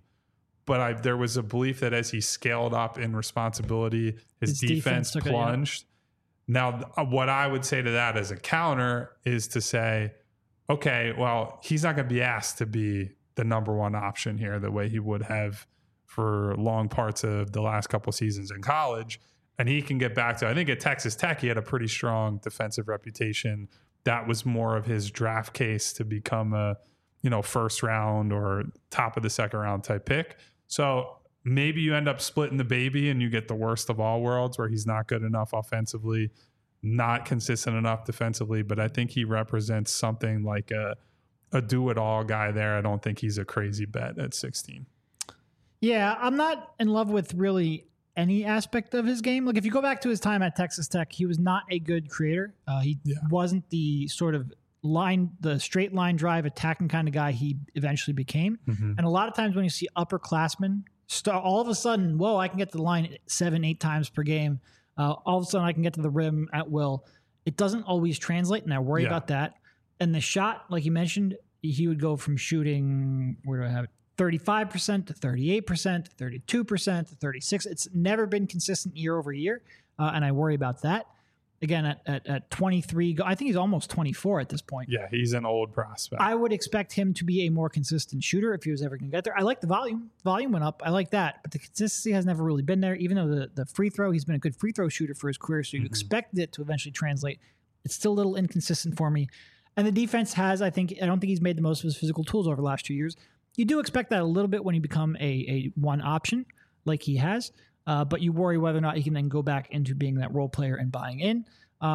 But there was a belief that as he scaled up in responsibility, his defense plunged. Now, what I would say to that as a counter is to say, okay, well, he's not going to be asked to be the number one option here the way he would have for long parts of the last couple of seasons in college. And he can get back to, I think at Texas Tech, he had a pretty strong defensive reputation. That was more of his draft case to become a, first round or top of the second round type pick. So maybe you end up splitting the baby and you get the worst of all worlds where he's not good enough offensively, not consistent enough defensively, but I think he represents something like a do-it-all guy there. I don't think he's a crazy bet at 16. Yeah, I'm not in love with really any aspect of his game. Like if you go back to his time at Texas Tech, he was not a good creator. He wasn't the sort of the straight line drive attacking kind of guy he eventually became. Mm-hmm. And a lot of times when you see upperclassmen all of a sudden, whoa, I can get to the line 7-8 times per game. All of a sudden I can get to the rim at will. It doesn't always translate, and I worry about that. And the shot, like you mentioned, he would go from shooting, where do I have it? 35% to 38% to 32% to 36%. It's never been consistent year over year, and I worry about that. Again, at 23, I think he's almost 24 at this point. Yeah, he's an old prospect. I would expect him to be a more consistent shooter if he was ever going to get there. I like the volume. Volume went up. I like that. But the consistency has never really been there, even though the free throw, he's been a good free throw shooter for his career, so you expect it to eventually translate. It's still a little inconsistent for me. And the defense I don't think he's made the most of his physical tools over the last 2 years. You do expect that a little bit when you become a one option like he has, but you worry whether or not he can then go back into being that role player and buying in.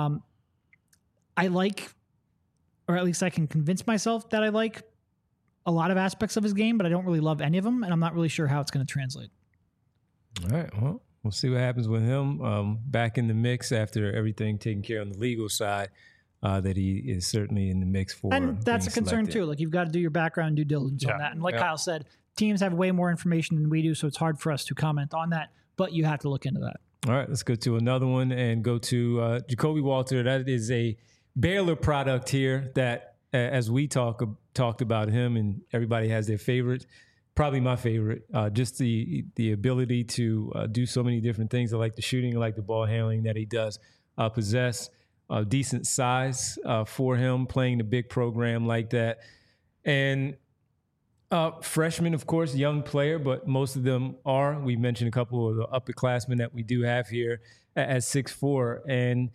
I like, or at least I can convince myself that I like a lot of aspects of his game, but I don't really love any of them, and I'm not really sure how it's going to translate. All right, well, we'll see what happens with him back in the mix after everything taken care of on the legal side. That he is certainly in the mix for. And that's a concern too. Like you've got to do your background due diligence on that. And like Kyle said, teams have way more information than we do, so it's hard for us to comment on that, but you have to look into that. All right, let's go to another one and go to Jacoby Walter. That is a Baylor product here that, as we talked about him, and everybody has their favorite, probably my favorite, just the ability to do so many different things. I like the shooting, I like the ball handling that he does possess. Decent size for him, playing the big program like that. And freshman, of course, young player, but most of them are. We mentioned a couple of the upperclassmen that we do have here at 6'4". And,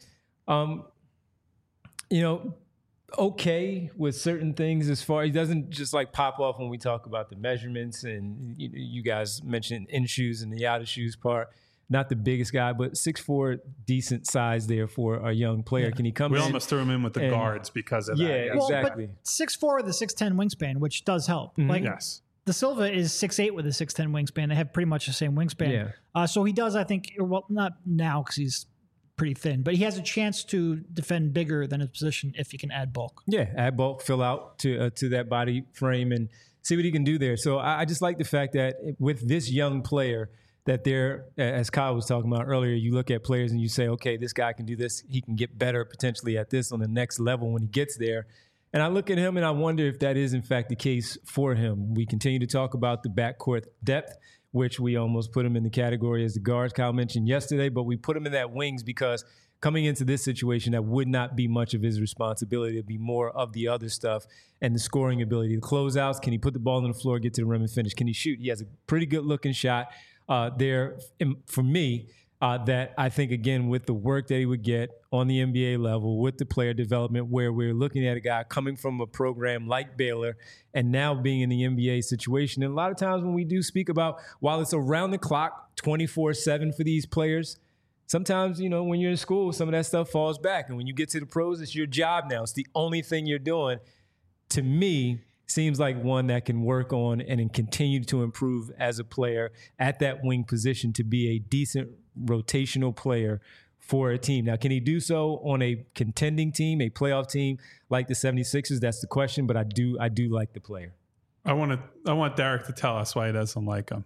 okay with certain things as far. He doesn't just like pop off when we talk about the measurements. And you guys mentioned in shoes and the out of shoes part. Not the biggest guy, but 6'4", decent size there for a young player. Yeah. Can he come in? We almost threw him in with the guards because of that. Yeah, exactly. But 6'4" with a 6'10" wingspan, which does help. Mm-hmm. Like yes. De Silva is 6'8" with a 6'10" wingspan. They have pretty much the same wingspan. Yeah. So he does, I think, well, not now because he's pretty thin, but he has a chance to defend bigger than his position if he can add bulk. Yeah, add bulk, fill out to that body frame and see what he can do there. So I just like the fact that with this young player, that they're, as Kyle was talking about earlier, you look at players and you say, okay, this guy can do this. He can get better potentially at this on the next level when he gets there. And I look at him and I wonder if that is in fact the case for him. We continue to talk about the backcourt depth, which we almost put him in the category as the guards Kyle mentioned yesterday, but we put him in that wings because coming into this situation, that would not be much of his responsibility. It'd be more of the other stuff and the scoring ability. The closeouts, can he put the ball on the floor, get to the rim and finish? Can he shoot? He has a pretty good looking shot there for me that I think, again, with the work that he would get on the NBA level, with the player development, where we're looking at a guy coming from a program like Baylor and now being in the NBA situation. And a lot of times when we do speak about, while it's around the clock, 24/7 for these players, sometimes, you know, when you're in school, some of that stuff falls back. And when you get to the pros, it's your job now. It's the only thing you're doing. To me, seems like one that can work on and continue to improve as a player at that wing position to be a decent rotational player for a team. Now, can he do so on a contending team, a playoff team like the 76ers? That's the question, but I do like the player. I want Derek to tell us why he doesn't like him.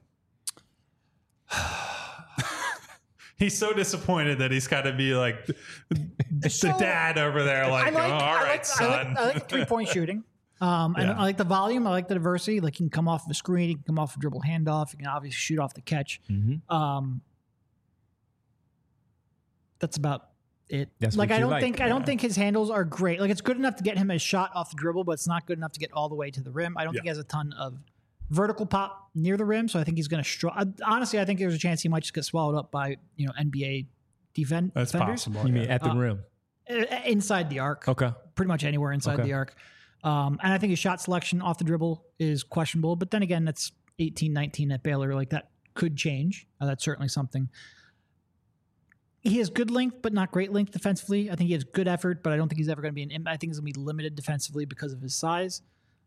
He's so disappointed that he's got to be like the dad over there. Like, all right, son. I like the 3-point shooting. And I like the volume. I like the diversity. Like, he can come off of a screen. He can come off a dribble handoff. He can obviously shoot off the catch. Mm-hmm. That's about it. That's like, what I you don't like. think I don't think his handles are great. Like, it's good enough to get him a shot off the dribble, but it's not good enough to get all the way to the rim. I don't think he has a ton of vertical pop near the rim, so I think he's going to struggle. Honestly, I think there's a chance he might just get swallowed up by, you know, NBA defenders. That's possible. You mean at the rim? Inside the arc. Okay. Pretty much anywhere inside the arc. And I think his shot selection off the dribble is questionable. But then again, that's 18-19 at Baylor. Like, that could change. That's certainly something. He has good length, but not great length defensively. I think he has good effort, but I don't think he's ever going to be I think he's going to be limited defensively because of his size.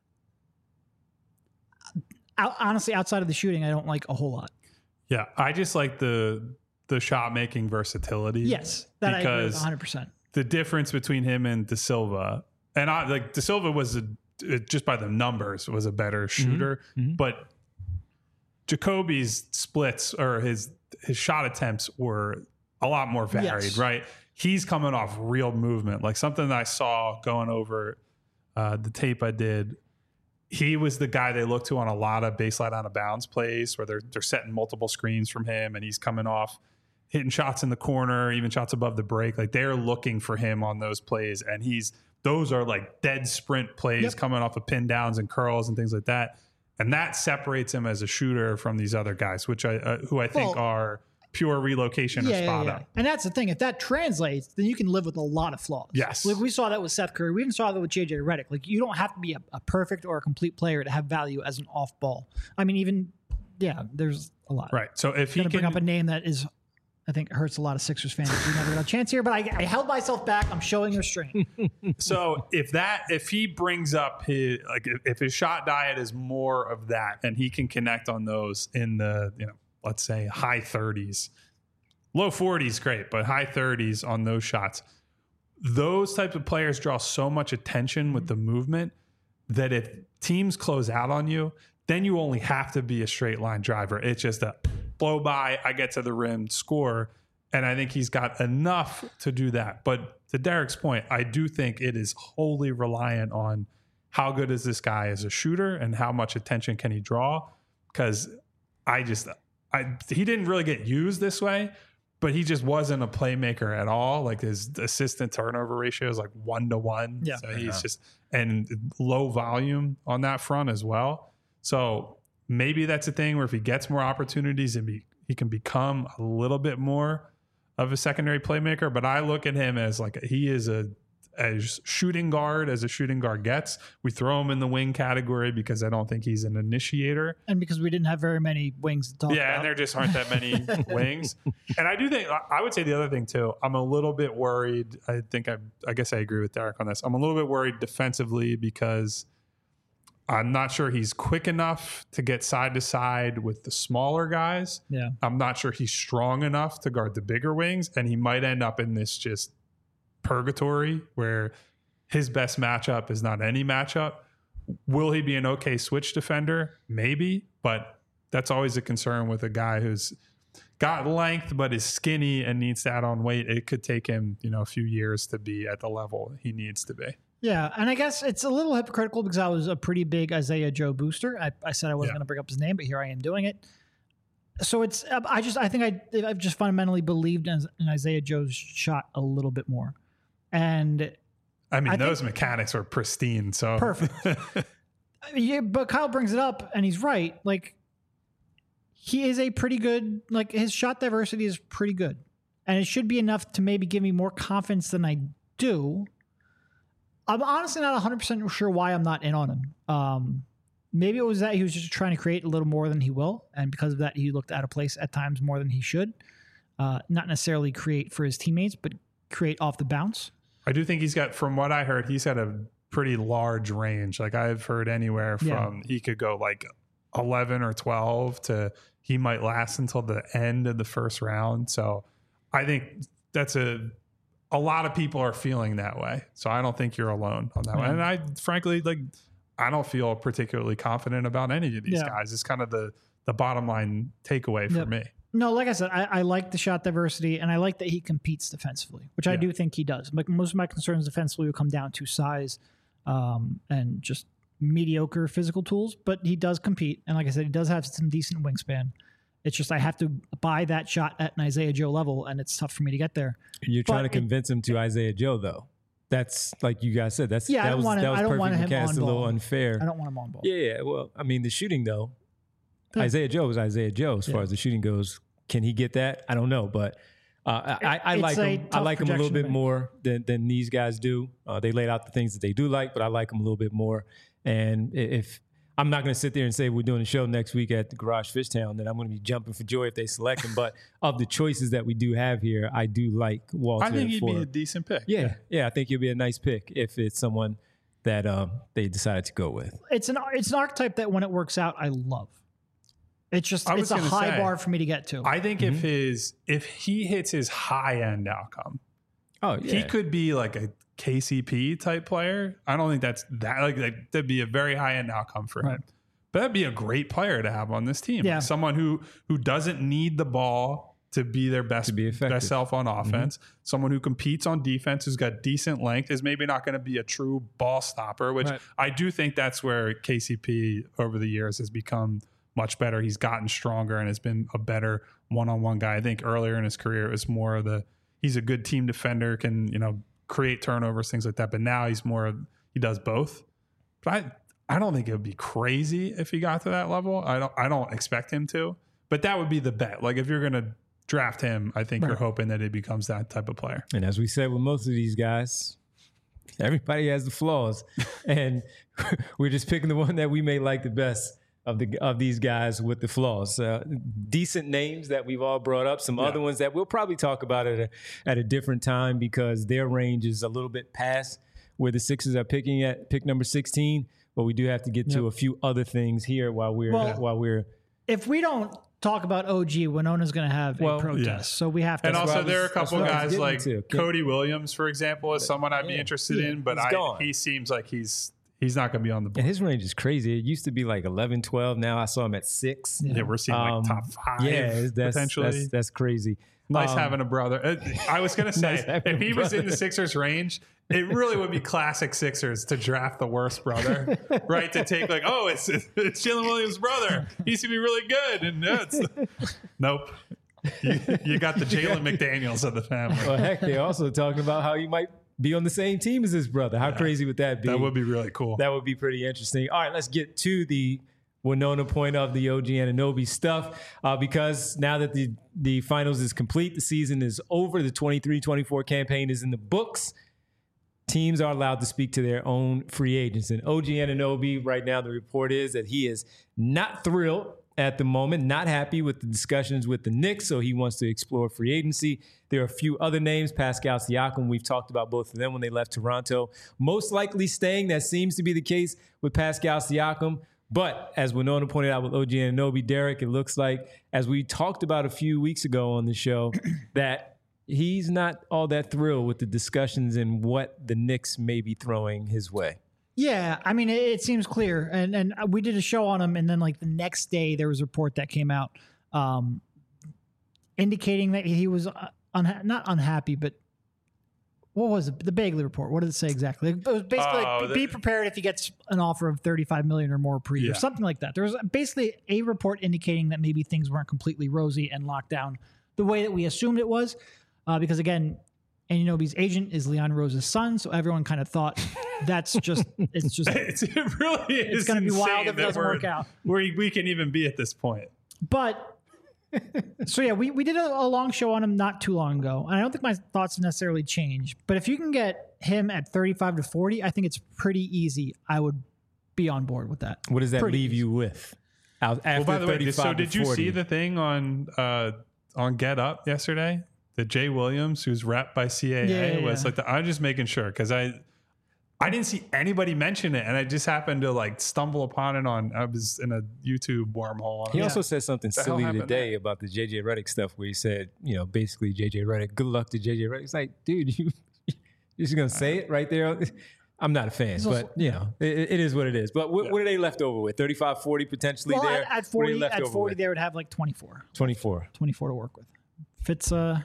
Honestly, outside of the shooting, I don't like a whole lot. Yeah, I just like the shot making versatility. Yes, that I agree with 100%. The difference between him and De Silva, and De Silva was just by the numbers was a better shooter, but Jacoby's splits or his shot attempts were a lot more varied. Right, he's coming off real movement, like something that I saw going over the tape I did. He was the guy they look to on a lot of baseline out of bounds plays where they're setting multiple screens from him and he's coming off hitting shots in the corner, even shots above the break. Like, they're looking for him on those plays. And those are like dead sprint plays coming off of pin downs and curls and things like that. And that separates him as a shooter from these other guys, who I think are pure relocation or spot up. And that's the thing. If that translates, then you can live with a lot of flaws. Yes. Like, we saw that with Seth Curry. We even saw that with JJ Redick. Like, you don't have to be a perfect or a complete player to have value as an off ball. I mean, there's a lot. Right. So if he can bring up a name that is, I think, hurts a lot of Sixers fans. We never got a chance here, but I held myself back. I'm showing restraint. So if he brings up if his shot diet is more of that and he can connect on those in the, let's say high 30s, low 40s, great, but high 30s on those shots. Those types of players draw so much attention with the movement that if teams close out on you, then you only have to be a straight line driver. It's just a blow by, I get to the rim, score. And I think he's got enough to do that. But to Derek's point, I do think it is wholly reliant on how good is this guy as a shooter and how much attention can he draw. Because he didn't really get used this way, but he just wasn't a playmaker at all. Like, his assist and turnover ratio is like 1-to-1. Yeah. So he's just, and low volume on that front as well. So maybe that's a thing where if he gets more opportunities and he can become a little bit more of a secondary playmaker. But I look at him as like, he is as shooting guard as a shooting guard gets. We throw him in the wing category because I don't think he's an initiator. And because we didn't have very many wings to talk about. Yeah, and there just aren't that many wings. And I do think, I would say the other thing too, I'm a little bit worried. I guess I agree with Derek on this. I'm a little bit worried defensively because I'm not sure he's quick enough to get side to side with the smaller guys. Yeah. I'm not sure he's strong enough to guard the bigger wings. And he might end up in this just purgatory where his best matchup is not any matchup. Will he be an okay switch defender? Maybe, but that's always a concern with a guy who's got length but is skinny and needs to add on weight, it could take him, a few years to be at the level he needs to be. Yeah, and I guess it's a little hypocritical because I was a pretty big Isaiah Joe booster. I said I wasn't going to bring up his name, but here I am doing it. So it's I've just fundamentally believed in Isaiah Joe's shot a little bit more, and I mean those mechanics are pristine. So perfect. Yeah, but Kyle brings it up, and he's right. Like he is a pretty good. Like his shot diversity is pretty good, and it should be enough to maybe give me more confidence than I do. I'm honestly not 100% sure why I'm not in on him. Maybe it was that he was just trying to create a little more than he will. And because of that, he looked out of place at times more than he should. Not necessarily create for his teammates, but create off the bounce. I do think from what I heard, he's got a pretty large range. Like I've heard anywhere from he could go like 11 or 12 to he might last until the end of the first round. So I think that's a lot of people are feeling that way. So I don't think you're alone on that one. And I frankly, I don't feel particularly confident about any of these guys. It's kind of the bottom line takeaway for me. No, like I said, I like the shot diversity and I like that he competes defensively, which I do think he does. Like most of my concerns defensively will come down to size and just mediocre physical tools, but he does compete. And like I said, he does have some decent wingspan. It's just I have to buy that shot at an Isaiah Joe level, and it's tough for me to get there. You're trying to convince him to Isaiah Joe, though. That's like you guys said. That I don't was want him perfect on mechanics. A little unfair. I don't want him on ball. Yeah. Well, I mean, the shooting though, Isaiah Joe is Isaiah Joe as far as the shooting goes. Can he get that? I don't know, but I like him. I like him a little bit more than these guys do. They laid out the things that they do like, but I like him a little bit more. And if I'm not going to sit there and say we're doing a show next week at the Garage Fishtown, then I'm going to be jumping for joy if they select him. But of the choices that we do have here, I do like Walter. I think he'd be a decent pick. Yeah, I think he'll be a nice pick if it's someone that they decided to go with. It's an archetype that when it works out, I love. It's just it's a high bar for me to get to. I think if he hits his high end outcome, he could be like a KCP type player. I don't think that'd be a very high end outcome for him. But that'd be a great player to have on this team. Yeah. Like someone who doesn't need the ball to be their best self on offense. Someone who competes on defense, who's got decent length, is maybe not going to be a true ball stopper, which I do think that's where KCP over the years has become much better. He's gotten stronger and has been a better one-on-one guy. I think earlier in his career, it was more of he's a good team defender, can, create turnovers, things like that. But now he does both. But I don't think it would be crazy if he got to that level. I don't expect him to, but that would be the bet. Like if you're going to draft him, I think you're hoping that he becomes that type of player. And as we said with most of these guys, everybody has the flaws, and we're just picking the one that we may like the best of these guys with the flaws. Decent names that we've all brought up. Some other ones that we'll probably talk about at a different time because their range is a little bit past where the Sixers are picking at pick number 16. But we do have to get to a few other things here while we're. If we don't talk about OG, Winona's going to have a protest, so we have to. And also, there are a couple guys like Cody Williams, for example, is someone I'd be interested in, but he seems like he's not going to be on the board. And his range is crazy. It used to be like 11, 12. Now I saw him at 6. Yeah, we're seeing like top 5. Yeah, potentially. That's crazy. Nice having a brother. I was going to say, if he was in the Sixers range, it really would be classic Sixers to draft the worst brother, right? To take it's Jalen Williams' brother. He used to be really good. And nope. You got the Jalen McDaniels of the family. Well, heck, they're also talking about how you might be on the same team as his brother. How crazy would that be? That would be really cool. That would be pretty interesting. All right, let's get to the Winona point of the OG Anunoby stuff because now that the finals is complete, the season is over, the 23-24 campaign is in the books, teams are allowed to speak to their own free agents. And OG Anunoby, right now, the report is that he is not thrilled at the moment, not happy with the discussions with the Knicks, so he wants to explore free agency. There are a few other names, Pascal Siakam, we've talked about both of them when they left Toronto. Most likely staying, that seems to be the case with Pascal Siakam. But as Winona pointed out with OG Anunoby, Derek, it looks like, as we talked about a few weeks ago on the show, that he's not all that thrilled with the discussions and what the Knicks may be throwing his way. Yeah, I mean, it seems clear. And we did a show on him, and then like the next day there was a report that came out indicating that he was not unhappy, but what was it? The Bagley report? What did it say exactly? It was basically like, be prepared if he gets an offer of $35 million or more per year, something like that. There was basically a report indicating that maybe things weren't completely rosy and locked down the way that we assumed it was, because again, Anunoby's agent is Leon Rose's son, so everyone kind of thought it's it really is. It's going to be wild if it doesn't work out. We can even be at this point. But so yeah, we did a long show on him not too long ago, and I don't think my thoughts have necessarily changed. But if you can get him at 35 to 40, I think it's pretty easy. I would be on board with that. What does that leave you with? After by the way, so 35 to did you 40? see the thing on Get Up yesterday? That Jay Williams, who's repped by CAA, was like, I'm just making sure because I didn't see anybody mention it, and I just happened to like stumble upon it I was in a YouTube wormhole. He also said something silly today there? about the JJ Redick stuff where he said, basically JJ Redick, good luck to JJ Redick. It's like, dude, you're just going to say it right there? I'm not a fan, but it is what it is. But what are they left over with? 35, 40 potentially there? At 40, they would have like 24. 24 to work with. Fits, I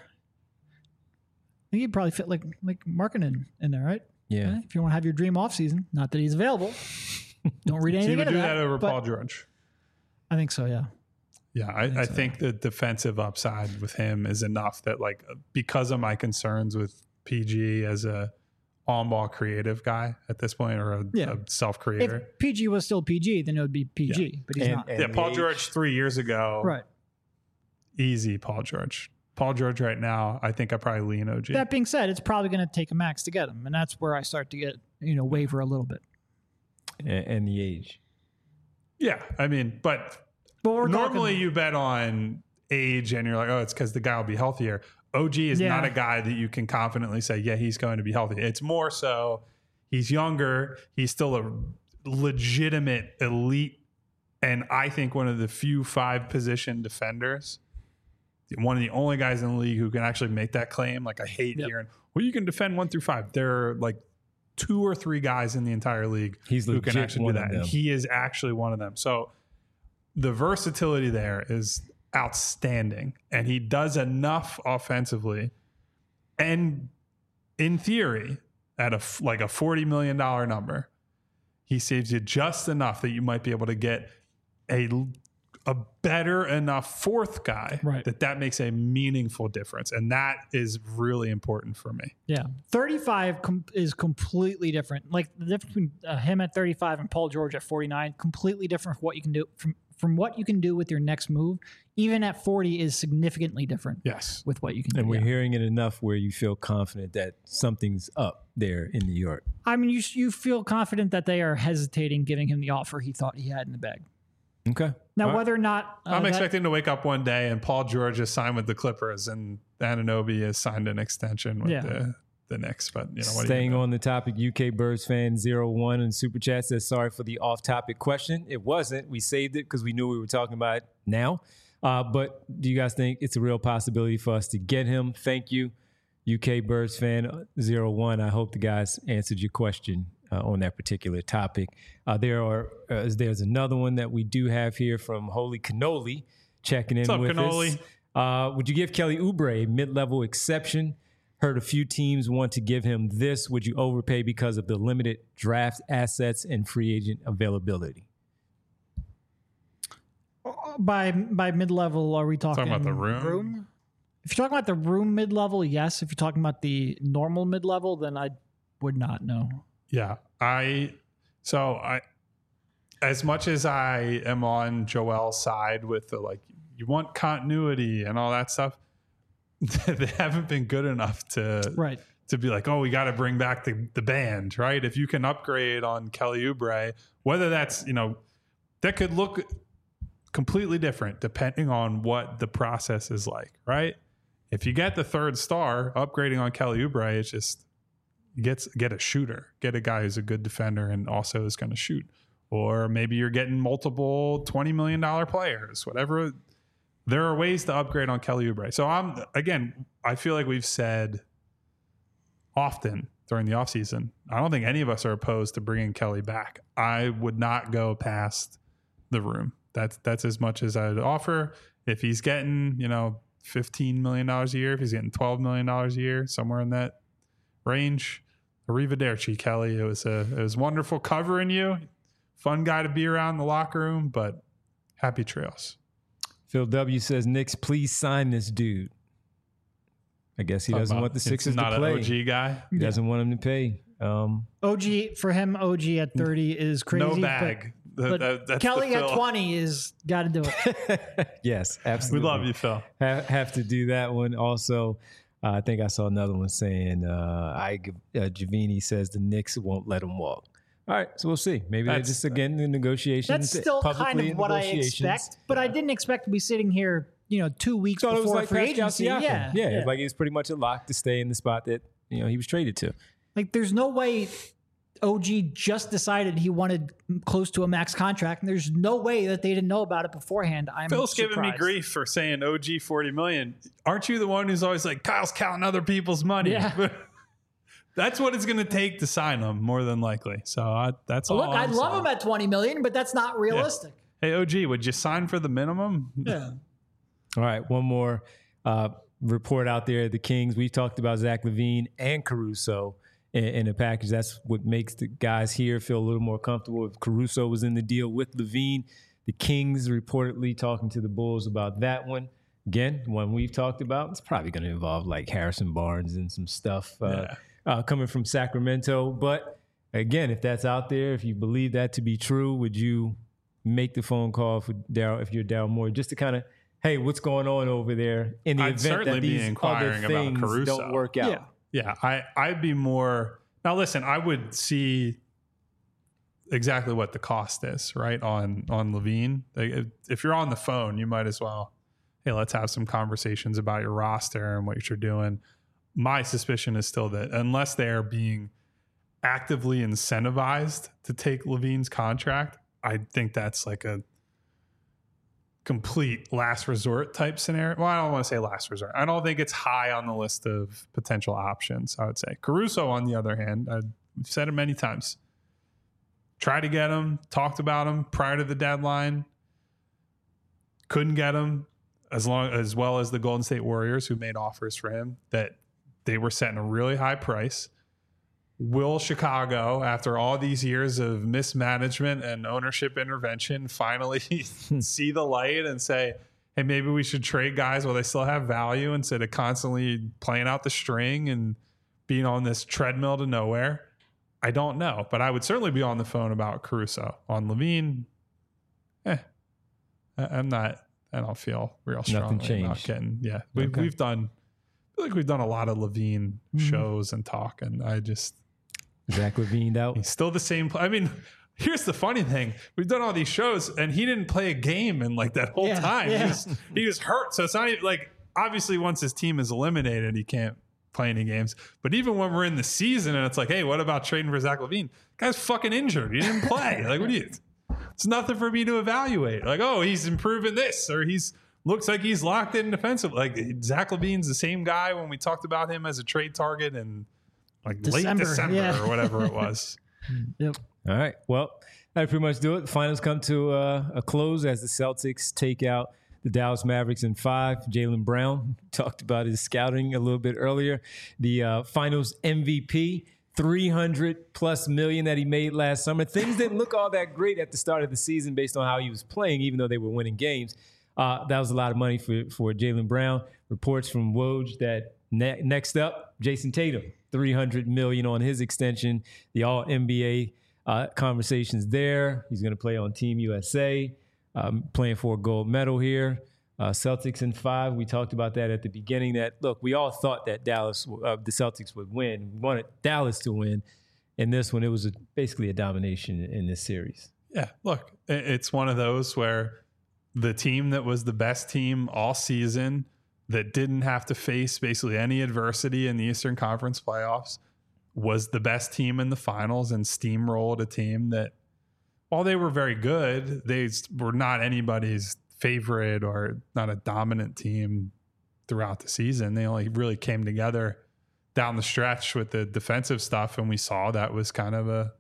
think you'd probably fit like Markkanen in there, right? Yeah. If you want to have your dream off season, not that he's available. Don't read anything into that. So you would do that over Paul George? I think so, yeah. Yeah, I think the defensive upside with him is enough that, like, because of my concerns with PG as a on-ball creative guy at this point, or a self-creator. If PG was still PG, then it would be PG, but he's not. Paul George 3 years ago. Right. Easy, Paul George. Paul George right now, I think I probably lean OG. That being said, it's probably going to take a max to get him, and that's where I start to get, waver a little bit. And the age. Yeah, I mean, but normally you bet on age and you're like, oh, it's because the guy will be healthier. OG is not a guy that you can confidently say, yeah, he's going to be healthy. It's more so he's younger. He's still a legitimate elite, and I think one of the few 5-position defenders. One of the only guys in the league who can actually make that claim. Like, I hate hearing, well, you can defend 1 through 5. There are like 2 or 3 guys in the entire league who can actually do that. And he is actually one of them. So the versatility there is outstanding. And he does enough offensively. And in theory, at a $40 million number, he saves you just enough that you might be able to get a better enough 4th guy that makes a meaningful difference. And that is really important for me. Yeah. 35 is completely different. Like, the difference between him at 35 and Paul George at 49, completely different from what you can do from what you can do with your next move. Even at 40 is significantly different. Yes. With what you can do. And we're hearing it enough where you feel confident that something's up there in New York. I mean, you feel confident that they are hesitating giving him the offer he thought he had in the bag. Okay. Now, whether or not I'm expecting to wake up one day and Paul George is signed with the Clippers and Anunoby has signed an extension with the Knicks. But staying on the topic, UK Birds fan 01 in Super Chat says, sorry for the off-topic question. It wasn't. We saved it because we knew we were talking about it now. But do you guys think it's a real possibility for us to get him? Thank you, UK Birds fan 01. I hope the guys answered your question on that particular topic. There's another one that we do have here from Holy Cannoli checking in What's up, with Cannoli? us. Would you give Kelly Oubre a mid-level exception? Heard a few teams want to give him this. Would you overpay because of the limited draft assets and free agent availability? By mid-level, are we talking about the room? If you're talking about the room mid-level, yes. If you're talking about the normal mid-level, then I would not know. Yeah, as much as I am on Joel's side with the, you want continuity and all that stuff, they haven't been good enough to be like, oh, we got to bring back the band, right? If you can upgrade on Kelly Oubre, whether that's, that could look completely different depending on what the process is like, right? If you get the 3rd star, upgrading on Kelly Oubre, it's just, get a shooter, get a guy who's a good defender and also is going to shoot. Or maybe you're getting multiple $20 million players, whatever. There are ways to upgrade on Kelly Oubre. So I feel like we've said often during the offseason, I don't think any of us are opposed to bringing Kelly back. I would not go past the room. That's as much as I'd offer. If he's getting, $15 million a year, if he's getting $12 million a year, somewhere in that range. Arrivederci, Kelly. It was wonderful covering you. Fun guy to be around in the locker room, but happy trails. Phil W says, Knicks, please sign this dude. I guess he doesn't want the Sixers to play. Not an OG guy. He doesn't want him to pay. OG, for him, OG at 30 is crazy. No bag. But Kelly at 20 is got to do it. Yes, absolutely. We love you, Phil. Have to do that one also. I think I saw another one saying, Javini says the Knicks won't let him walk. All right, so we'll see. Maybe they're just, again, the negotiations. That's still kind of what I expect, but I didn't expect to be sitting here, 2 weeks before it was like free agency. Yeah. Like he was pretty much a lock to stay in the spot that, he was traded to. Like there's no way OG just decided he wanted close to a max contract, and there's no way that they didn't know about it beforehand. Phil's surprised. giving me grief for saying OG $40 million. Aren't you the one who's always like, Kyle's counting other people's money? Yeah. That's what it's going to take to sign him, more than likely. So that's all. Look, I'd love him at $20 million, but that's not realistic. Yeah. Hey, OG, would you sign for the minimum? Yeah. All right, one more report out there. The Kings, we talked about Zach LaVine and Caruso in a package. That's what makes the guys here feel a little more comfortable. If Caruso was in the deal with LaVine, the Kings reportedly talking to the Bulls about that one. Again, one we've talked about. It's probably going to involve like Harrison Barnes and some stuff coming from Sacramento. But again, if that's out there, if you believe that to be true, would you make the phone call for Daryl, if you're Daryl Morey, just to kind of, hey, what's going on over there in the event that these other things don't work out? Yeah, I'd be more. Now, listen, I would see exactly what the cost is, right, on LaVine. Like, if you're on the phone, you might as well, hey, let's have some conversations about your roster and what you're doing. My suspicion is still that unless they're being actively incentivized to take LaVine's contract, I think that's like a complete last resort type scenario. Well, I don't want to say last resort. I don't think it's high on the list of potential options, I would say. Caruso, on the other hand, I've said it many times. Tried to get him, talked about him prior to the deadline. Couldn't get him as well as the Golden State Warriors, who made offers for him that they were setting a really high price. Will Chicago, after all these years of mismanagement and ownership intervention, finally see the light and say, hey, maybe we should trade guys while they still have value instead of constantly playing out the string and being on this treadmill to nowhere? I don't know, but I would certainly be on the phone about Caruso. On LaVine, I don't feel real strongly about getting. Yeah, we've done. I feel like we've done a lot of LaVine shows and talk, and I just. Zach LaVine out. He's still the same. I mean, here's the funny thing. We've done all these shows and he didn't play a game in like that whole time. Yeah. He was hurt. So it's not even like, obviously once his team is eliminated, he can't play any games. But even when we're in the season and it's like, hey, what about trading for Zach LaVine? Guy's fucking injured. He didn't play. Like, what do you, it's nothing for me to evaluate. Like, oh, he's improving this, or looks like he's locked in defensive. Like Zach LaVine's the same guy when we talked about him as a trade target and like late December or whatever it was. Yep. All right. Well, that pretty much do it. The finals come to a close as the Celtics take out the Dallas Mavericks in 5. Jaylen Brown talked about his scouting a little bit earlier. The finals MVP, $300+ million that he made last summer. Things didn't look all that great at the start of the season based on how he was playing, even though they were winning games. That was a lot of money for Jaylen Brown. Reports from Woj that next up, Jason Tatum. $300 million on his extension. The All-NBA conversations there. He's going to play on Team USA, playing for a gold medal here. Celtics in 5. We talked about that at the beginning. That look, we all thought that the Celtics would win. We wanted Dallas to win. In this one, it was basically a domination in this series. Yeah, look, it's one of those where the team that was the best team all season, that didn't have to face basically any adversity in the Eastern Conference playoffs, was the best team in the finals and steamrolled a team that, while they were very good, they were not anybody's favorite or not a dominant team throughout the season. They only really came together down the stretch with the defensive stuff, and we saw that was kind of a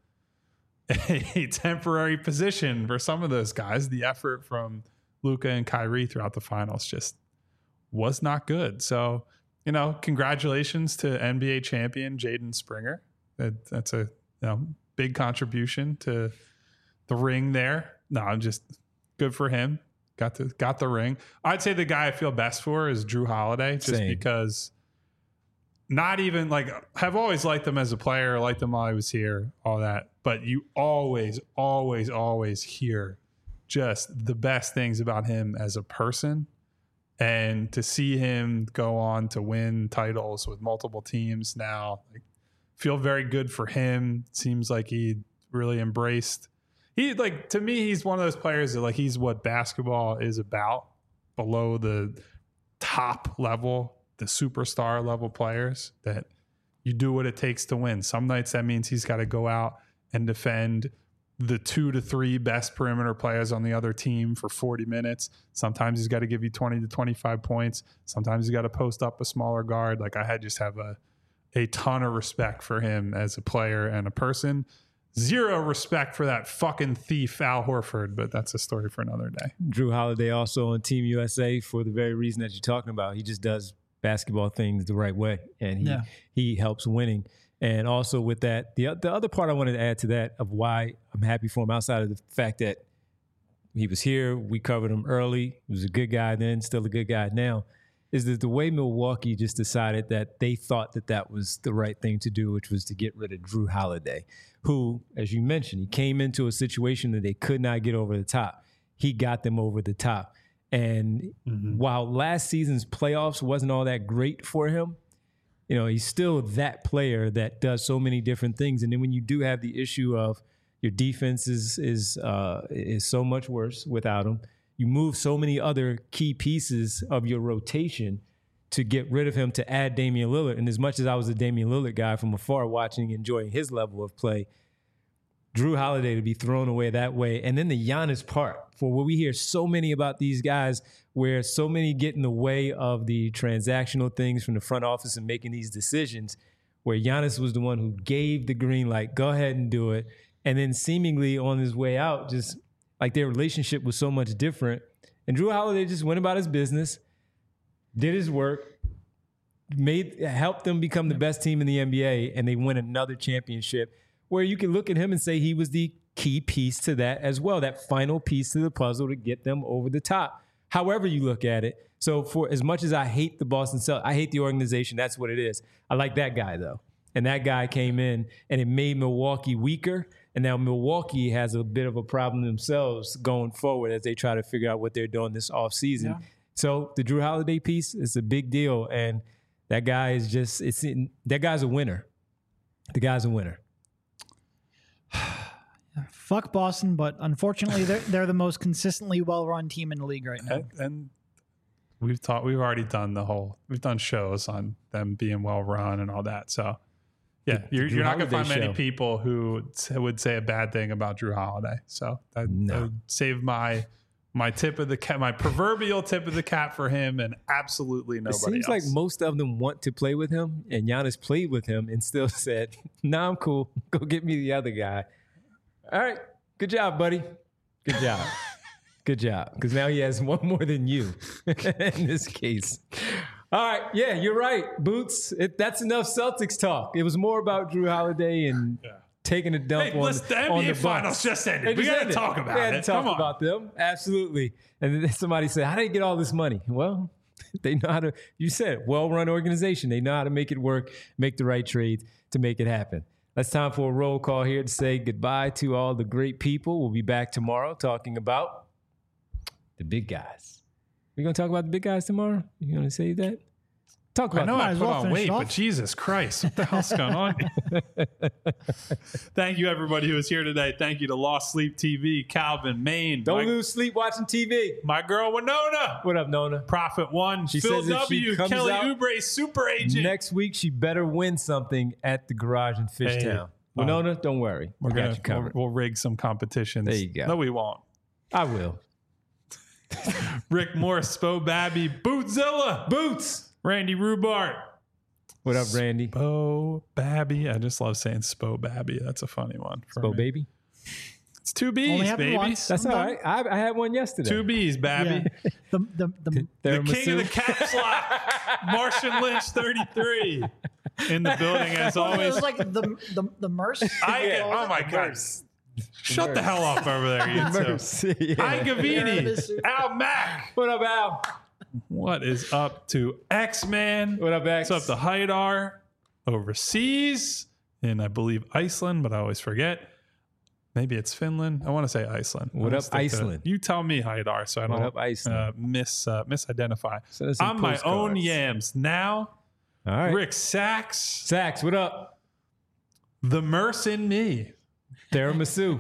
temporary position for some of those guys. The effort from Luka and Kyrie throughout the finals just was not good. So, congratulations to NBA champion Jaden Springer. That's a big contribution to the ring there. No, I'm just good for him. Got the ring. I'd say the guy I feel best for is Drew Holiday, just because not even have always liked him as a player, liked him while I was here, all that. But you always, always, always hear just the best things about him as a person. And to see him go on to win titles with multiple teams now, feel very good for him. Seems like he really embraced. To me, he's one of those players that he's what basketball is about, below the top level, the superstar level players, that you do what it takes to win. Some nights that means he's got to go out and defend the 2 to 3 best perimeter players on the other team for 40 minutes. Sometimes he's got to give you 20 to 25 points. Sometimes he's got to post up a smaller guard. I just have a ton of respect for him as a player and a person. Zero respect for that fucking thief Al Horford, but that's a story for another day. Drew Holiday also on Team USA for the very reason that you're talking about. He just does basketball things the right way, and he helps winning. And also with that, the other part I wanted to add to that of why I'm happy for him, outside of the fact that he was here, we covered him early, he was a good guy then, still a good guy now, is that the way Milwaukee just decided that they thought that was the right thing to do, which was to get rid of Drew Holiday, who, as you mentioned, he came into a situation that they could not get over the top. He got them over the top. And while last season's playoffs wasn't all that great for him, he's still that player that does so many different things. And then when you do have the issue of your defense is so much worse without him, you move so many other key pieces of your rotation to get rid of him to add Damian Lillard. And as much as I was a Damian Lillard guy from afar, watching, enjoying his level of play, Drew Holiday to be thrown away that way. And then the Giannis part, for what we hear so many about these guys, where so many get in the way of the transactional things from the front office and making these decisions, where Giannis was the one who gave the green light, go ahead and do it. And then seemingly on his way out, just their relationship was so much different. And Drew Holiday just went about his business, did his work, helped them become the best team in the NBA, and they win another championship, where you can look at him and say he was the key piece to that as well, that final piece to the puzzle to get them over the top, however you look at it. So for as much as I hate the Boston Celtics, I hate the organization, that's what it is. I like that guy, though. And that guy came in, and it made Milwaukee weaker. And now Milwaukee has a bit of a problem themselves going forward as they try to figure out what they're doing this offseason. Yeah. So the Drew Holiday piece is a big deal. And that guy is that guy's a winner. The guy's a winner. Fuck Boston, but unfortunately they're the most consistently well-run team in the league right now. And we've already done we've done shows on them being well-run and all that. So yeah, you're not going to find many people who would say a bad thing about Drew Holiday. So that would save my tip of the cap, my proverbial tip of the cap for him, and absolutely nobody else. It seems like most of them want to play with him, and Giannis played with him and still said, "Nah, I'm cool. Go get me the other guy." All right, good job, buddy. Good job. Good job, because now he has one more than you in this case. All right, yeah, you're right, Boots. That's enough Celtics talk. It was more about Drew Holiday and taking a dump on the NBA Finals just ended. We got to talk about it. We had to talk about them, absolutely. And then somebody said, "How did they get all this money?" Well, they know how to. You said it, well-run organization. They know how to make it work, make the right trades to make it happen. That's time for a roll call here to say goodbye to all the great people. We'll be back tomorrow talking about the big guys. We're going to talk about the big guys tomorrow? You going to say that? Talk about I know I put on weight, but Jesus Christ, what the hell's going on? Thank you, everybody who was here today. Thank you to Lost Sleep TV, Calvin, Maine. Don't lose sleep watching TV. My girl, Winona. What up, Nona? Prophet One. She Phil says W. Kelly Oubre, super agent. Next week, she better win something at the garage in Fishtown. Winona, don't worry. We got you covered. We'll rig some competitions. There you go. No, we won't. I will. Rick Morris, Spo Babby, Bootzilla, Boots, Randy Rubart. What up, Randy? Spo Babby. I just love saying Spo Babby. That's a funny one. Spo Baby. It's 2 Only B's, happened baby. once. That's all right. I had one yesterday. 2 B's, baby. Yeah. The The king of the caps lock, Martian Lynch 33 in the building as it always. was like the Merce. Oh my God. Shut the hell up over there, you two. Mercy. Yeah. Hi, Gavini. Al Mack. What up, Al? What is up to X-Man? What up, X? What's up to Haidar overseas in, I believe, Iceland, but I always forget. Maybe it's Finland. I want to say Iceland. What I'm up, gonna stick to- Iceland? You tell me, Haidar, so I What don't up, Iceland? misidentify. Send us some I'm my own postcards. yams now. All right. Rick Sachs, Sachs, what up? the Merce in me. Tiramisu.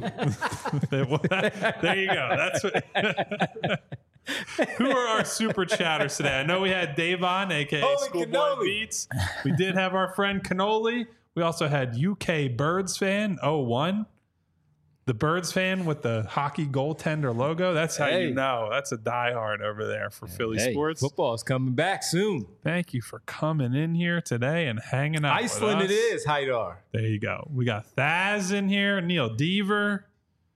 There you go. That's what. Who are our super chatters today? I know we had Davon, aka Holy Schoolboy cannoli. Beats. We did have our friend Cannoli. We also had UK Birds fan 01. The Birds fan with the hockey goaltender logo. That's how Hey. you know. That's a diehard over there for Philly Hey, sports. football's coming back soon. Thank you for coming in here today and hanging out. Iceland with it us. is, Haidar. There you go. We got Thaz in here, Neil Deaver.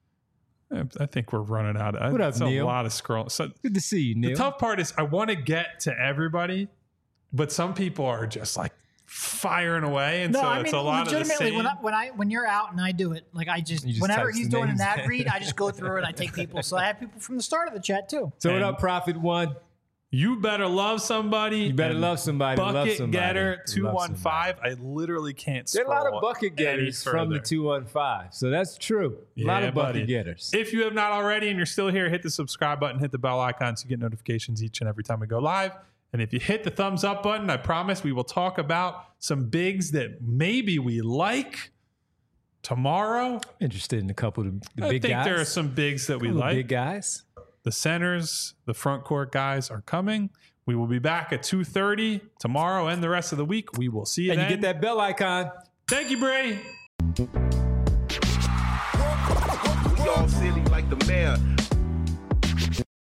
I think we're running out of. What up, it's Neil? A lot of scroll. So Good to see you, Neil. the tough part is I want to get to everybody, but some people are just like firing away, and No, so I it's mean a lot of the legitimately same. when you're out and I do it, like I just You just whenever type he's some doing names an ad in. read, I just go through it. I take people, so I have people from the start of the chat too. So what And- up, Prophet One? You better love somebody. You better and love somebody. Love Bucket somebody. getter Love 215. somebody. I literally can't. There are a lot scroll of bucket any getters from the further. 215. So that's true. A lot Yeah, of bucket buddy. getters. If you have not already and you're still here, hit the subscribe button, hit the bell icon so you get notifications each and every time we go live. And if you hit the thumbs up button, I promise we will talk about some bigs that maybe we like tomorrow. Interested in a couple of the I big think guys. there are some bigs that we Couple of like. big guys. The centers, the front court guys are coming. We will be back at 2:30 tomorrow and the rest of the week. We will see you And then. you get that bell icon. Thank you, Bray. We all silly like the mayor.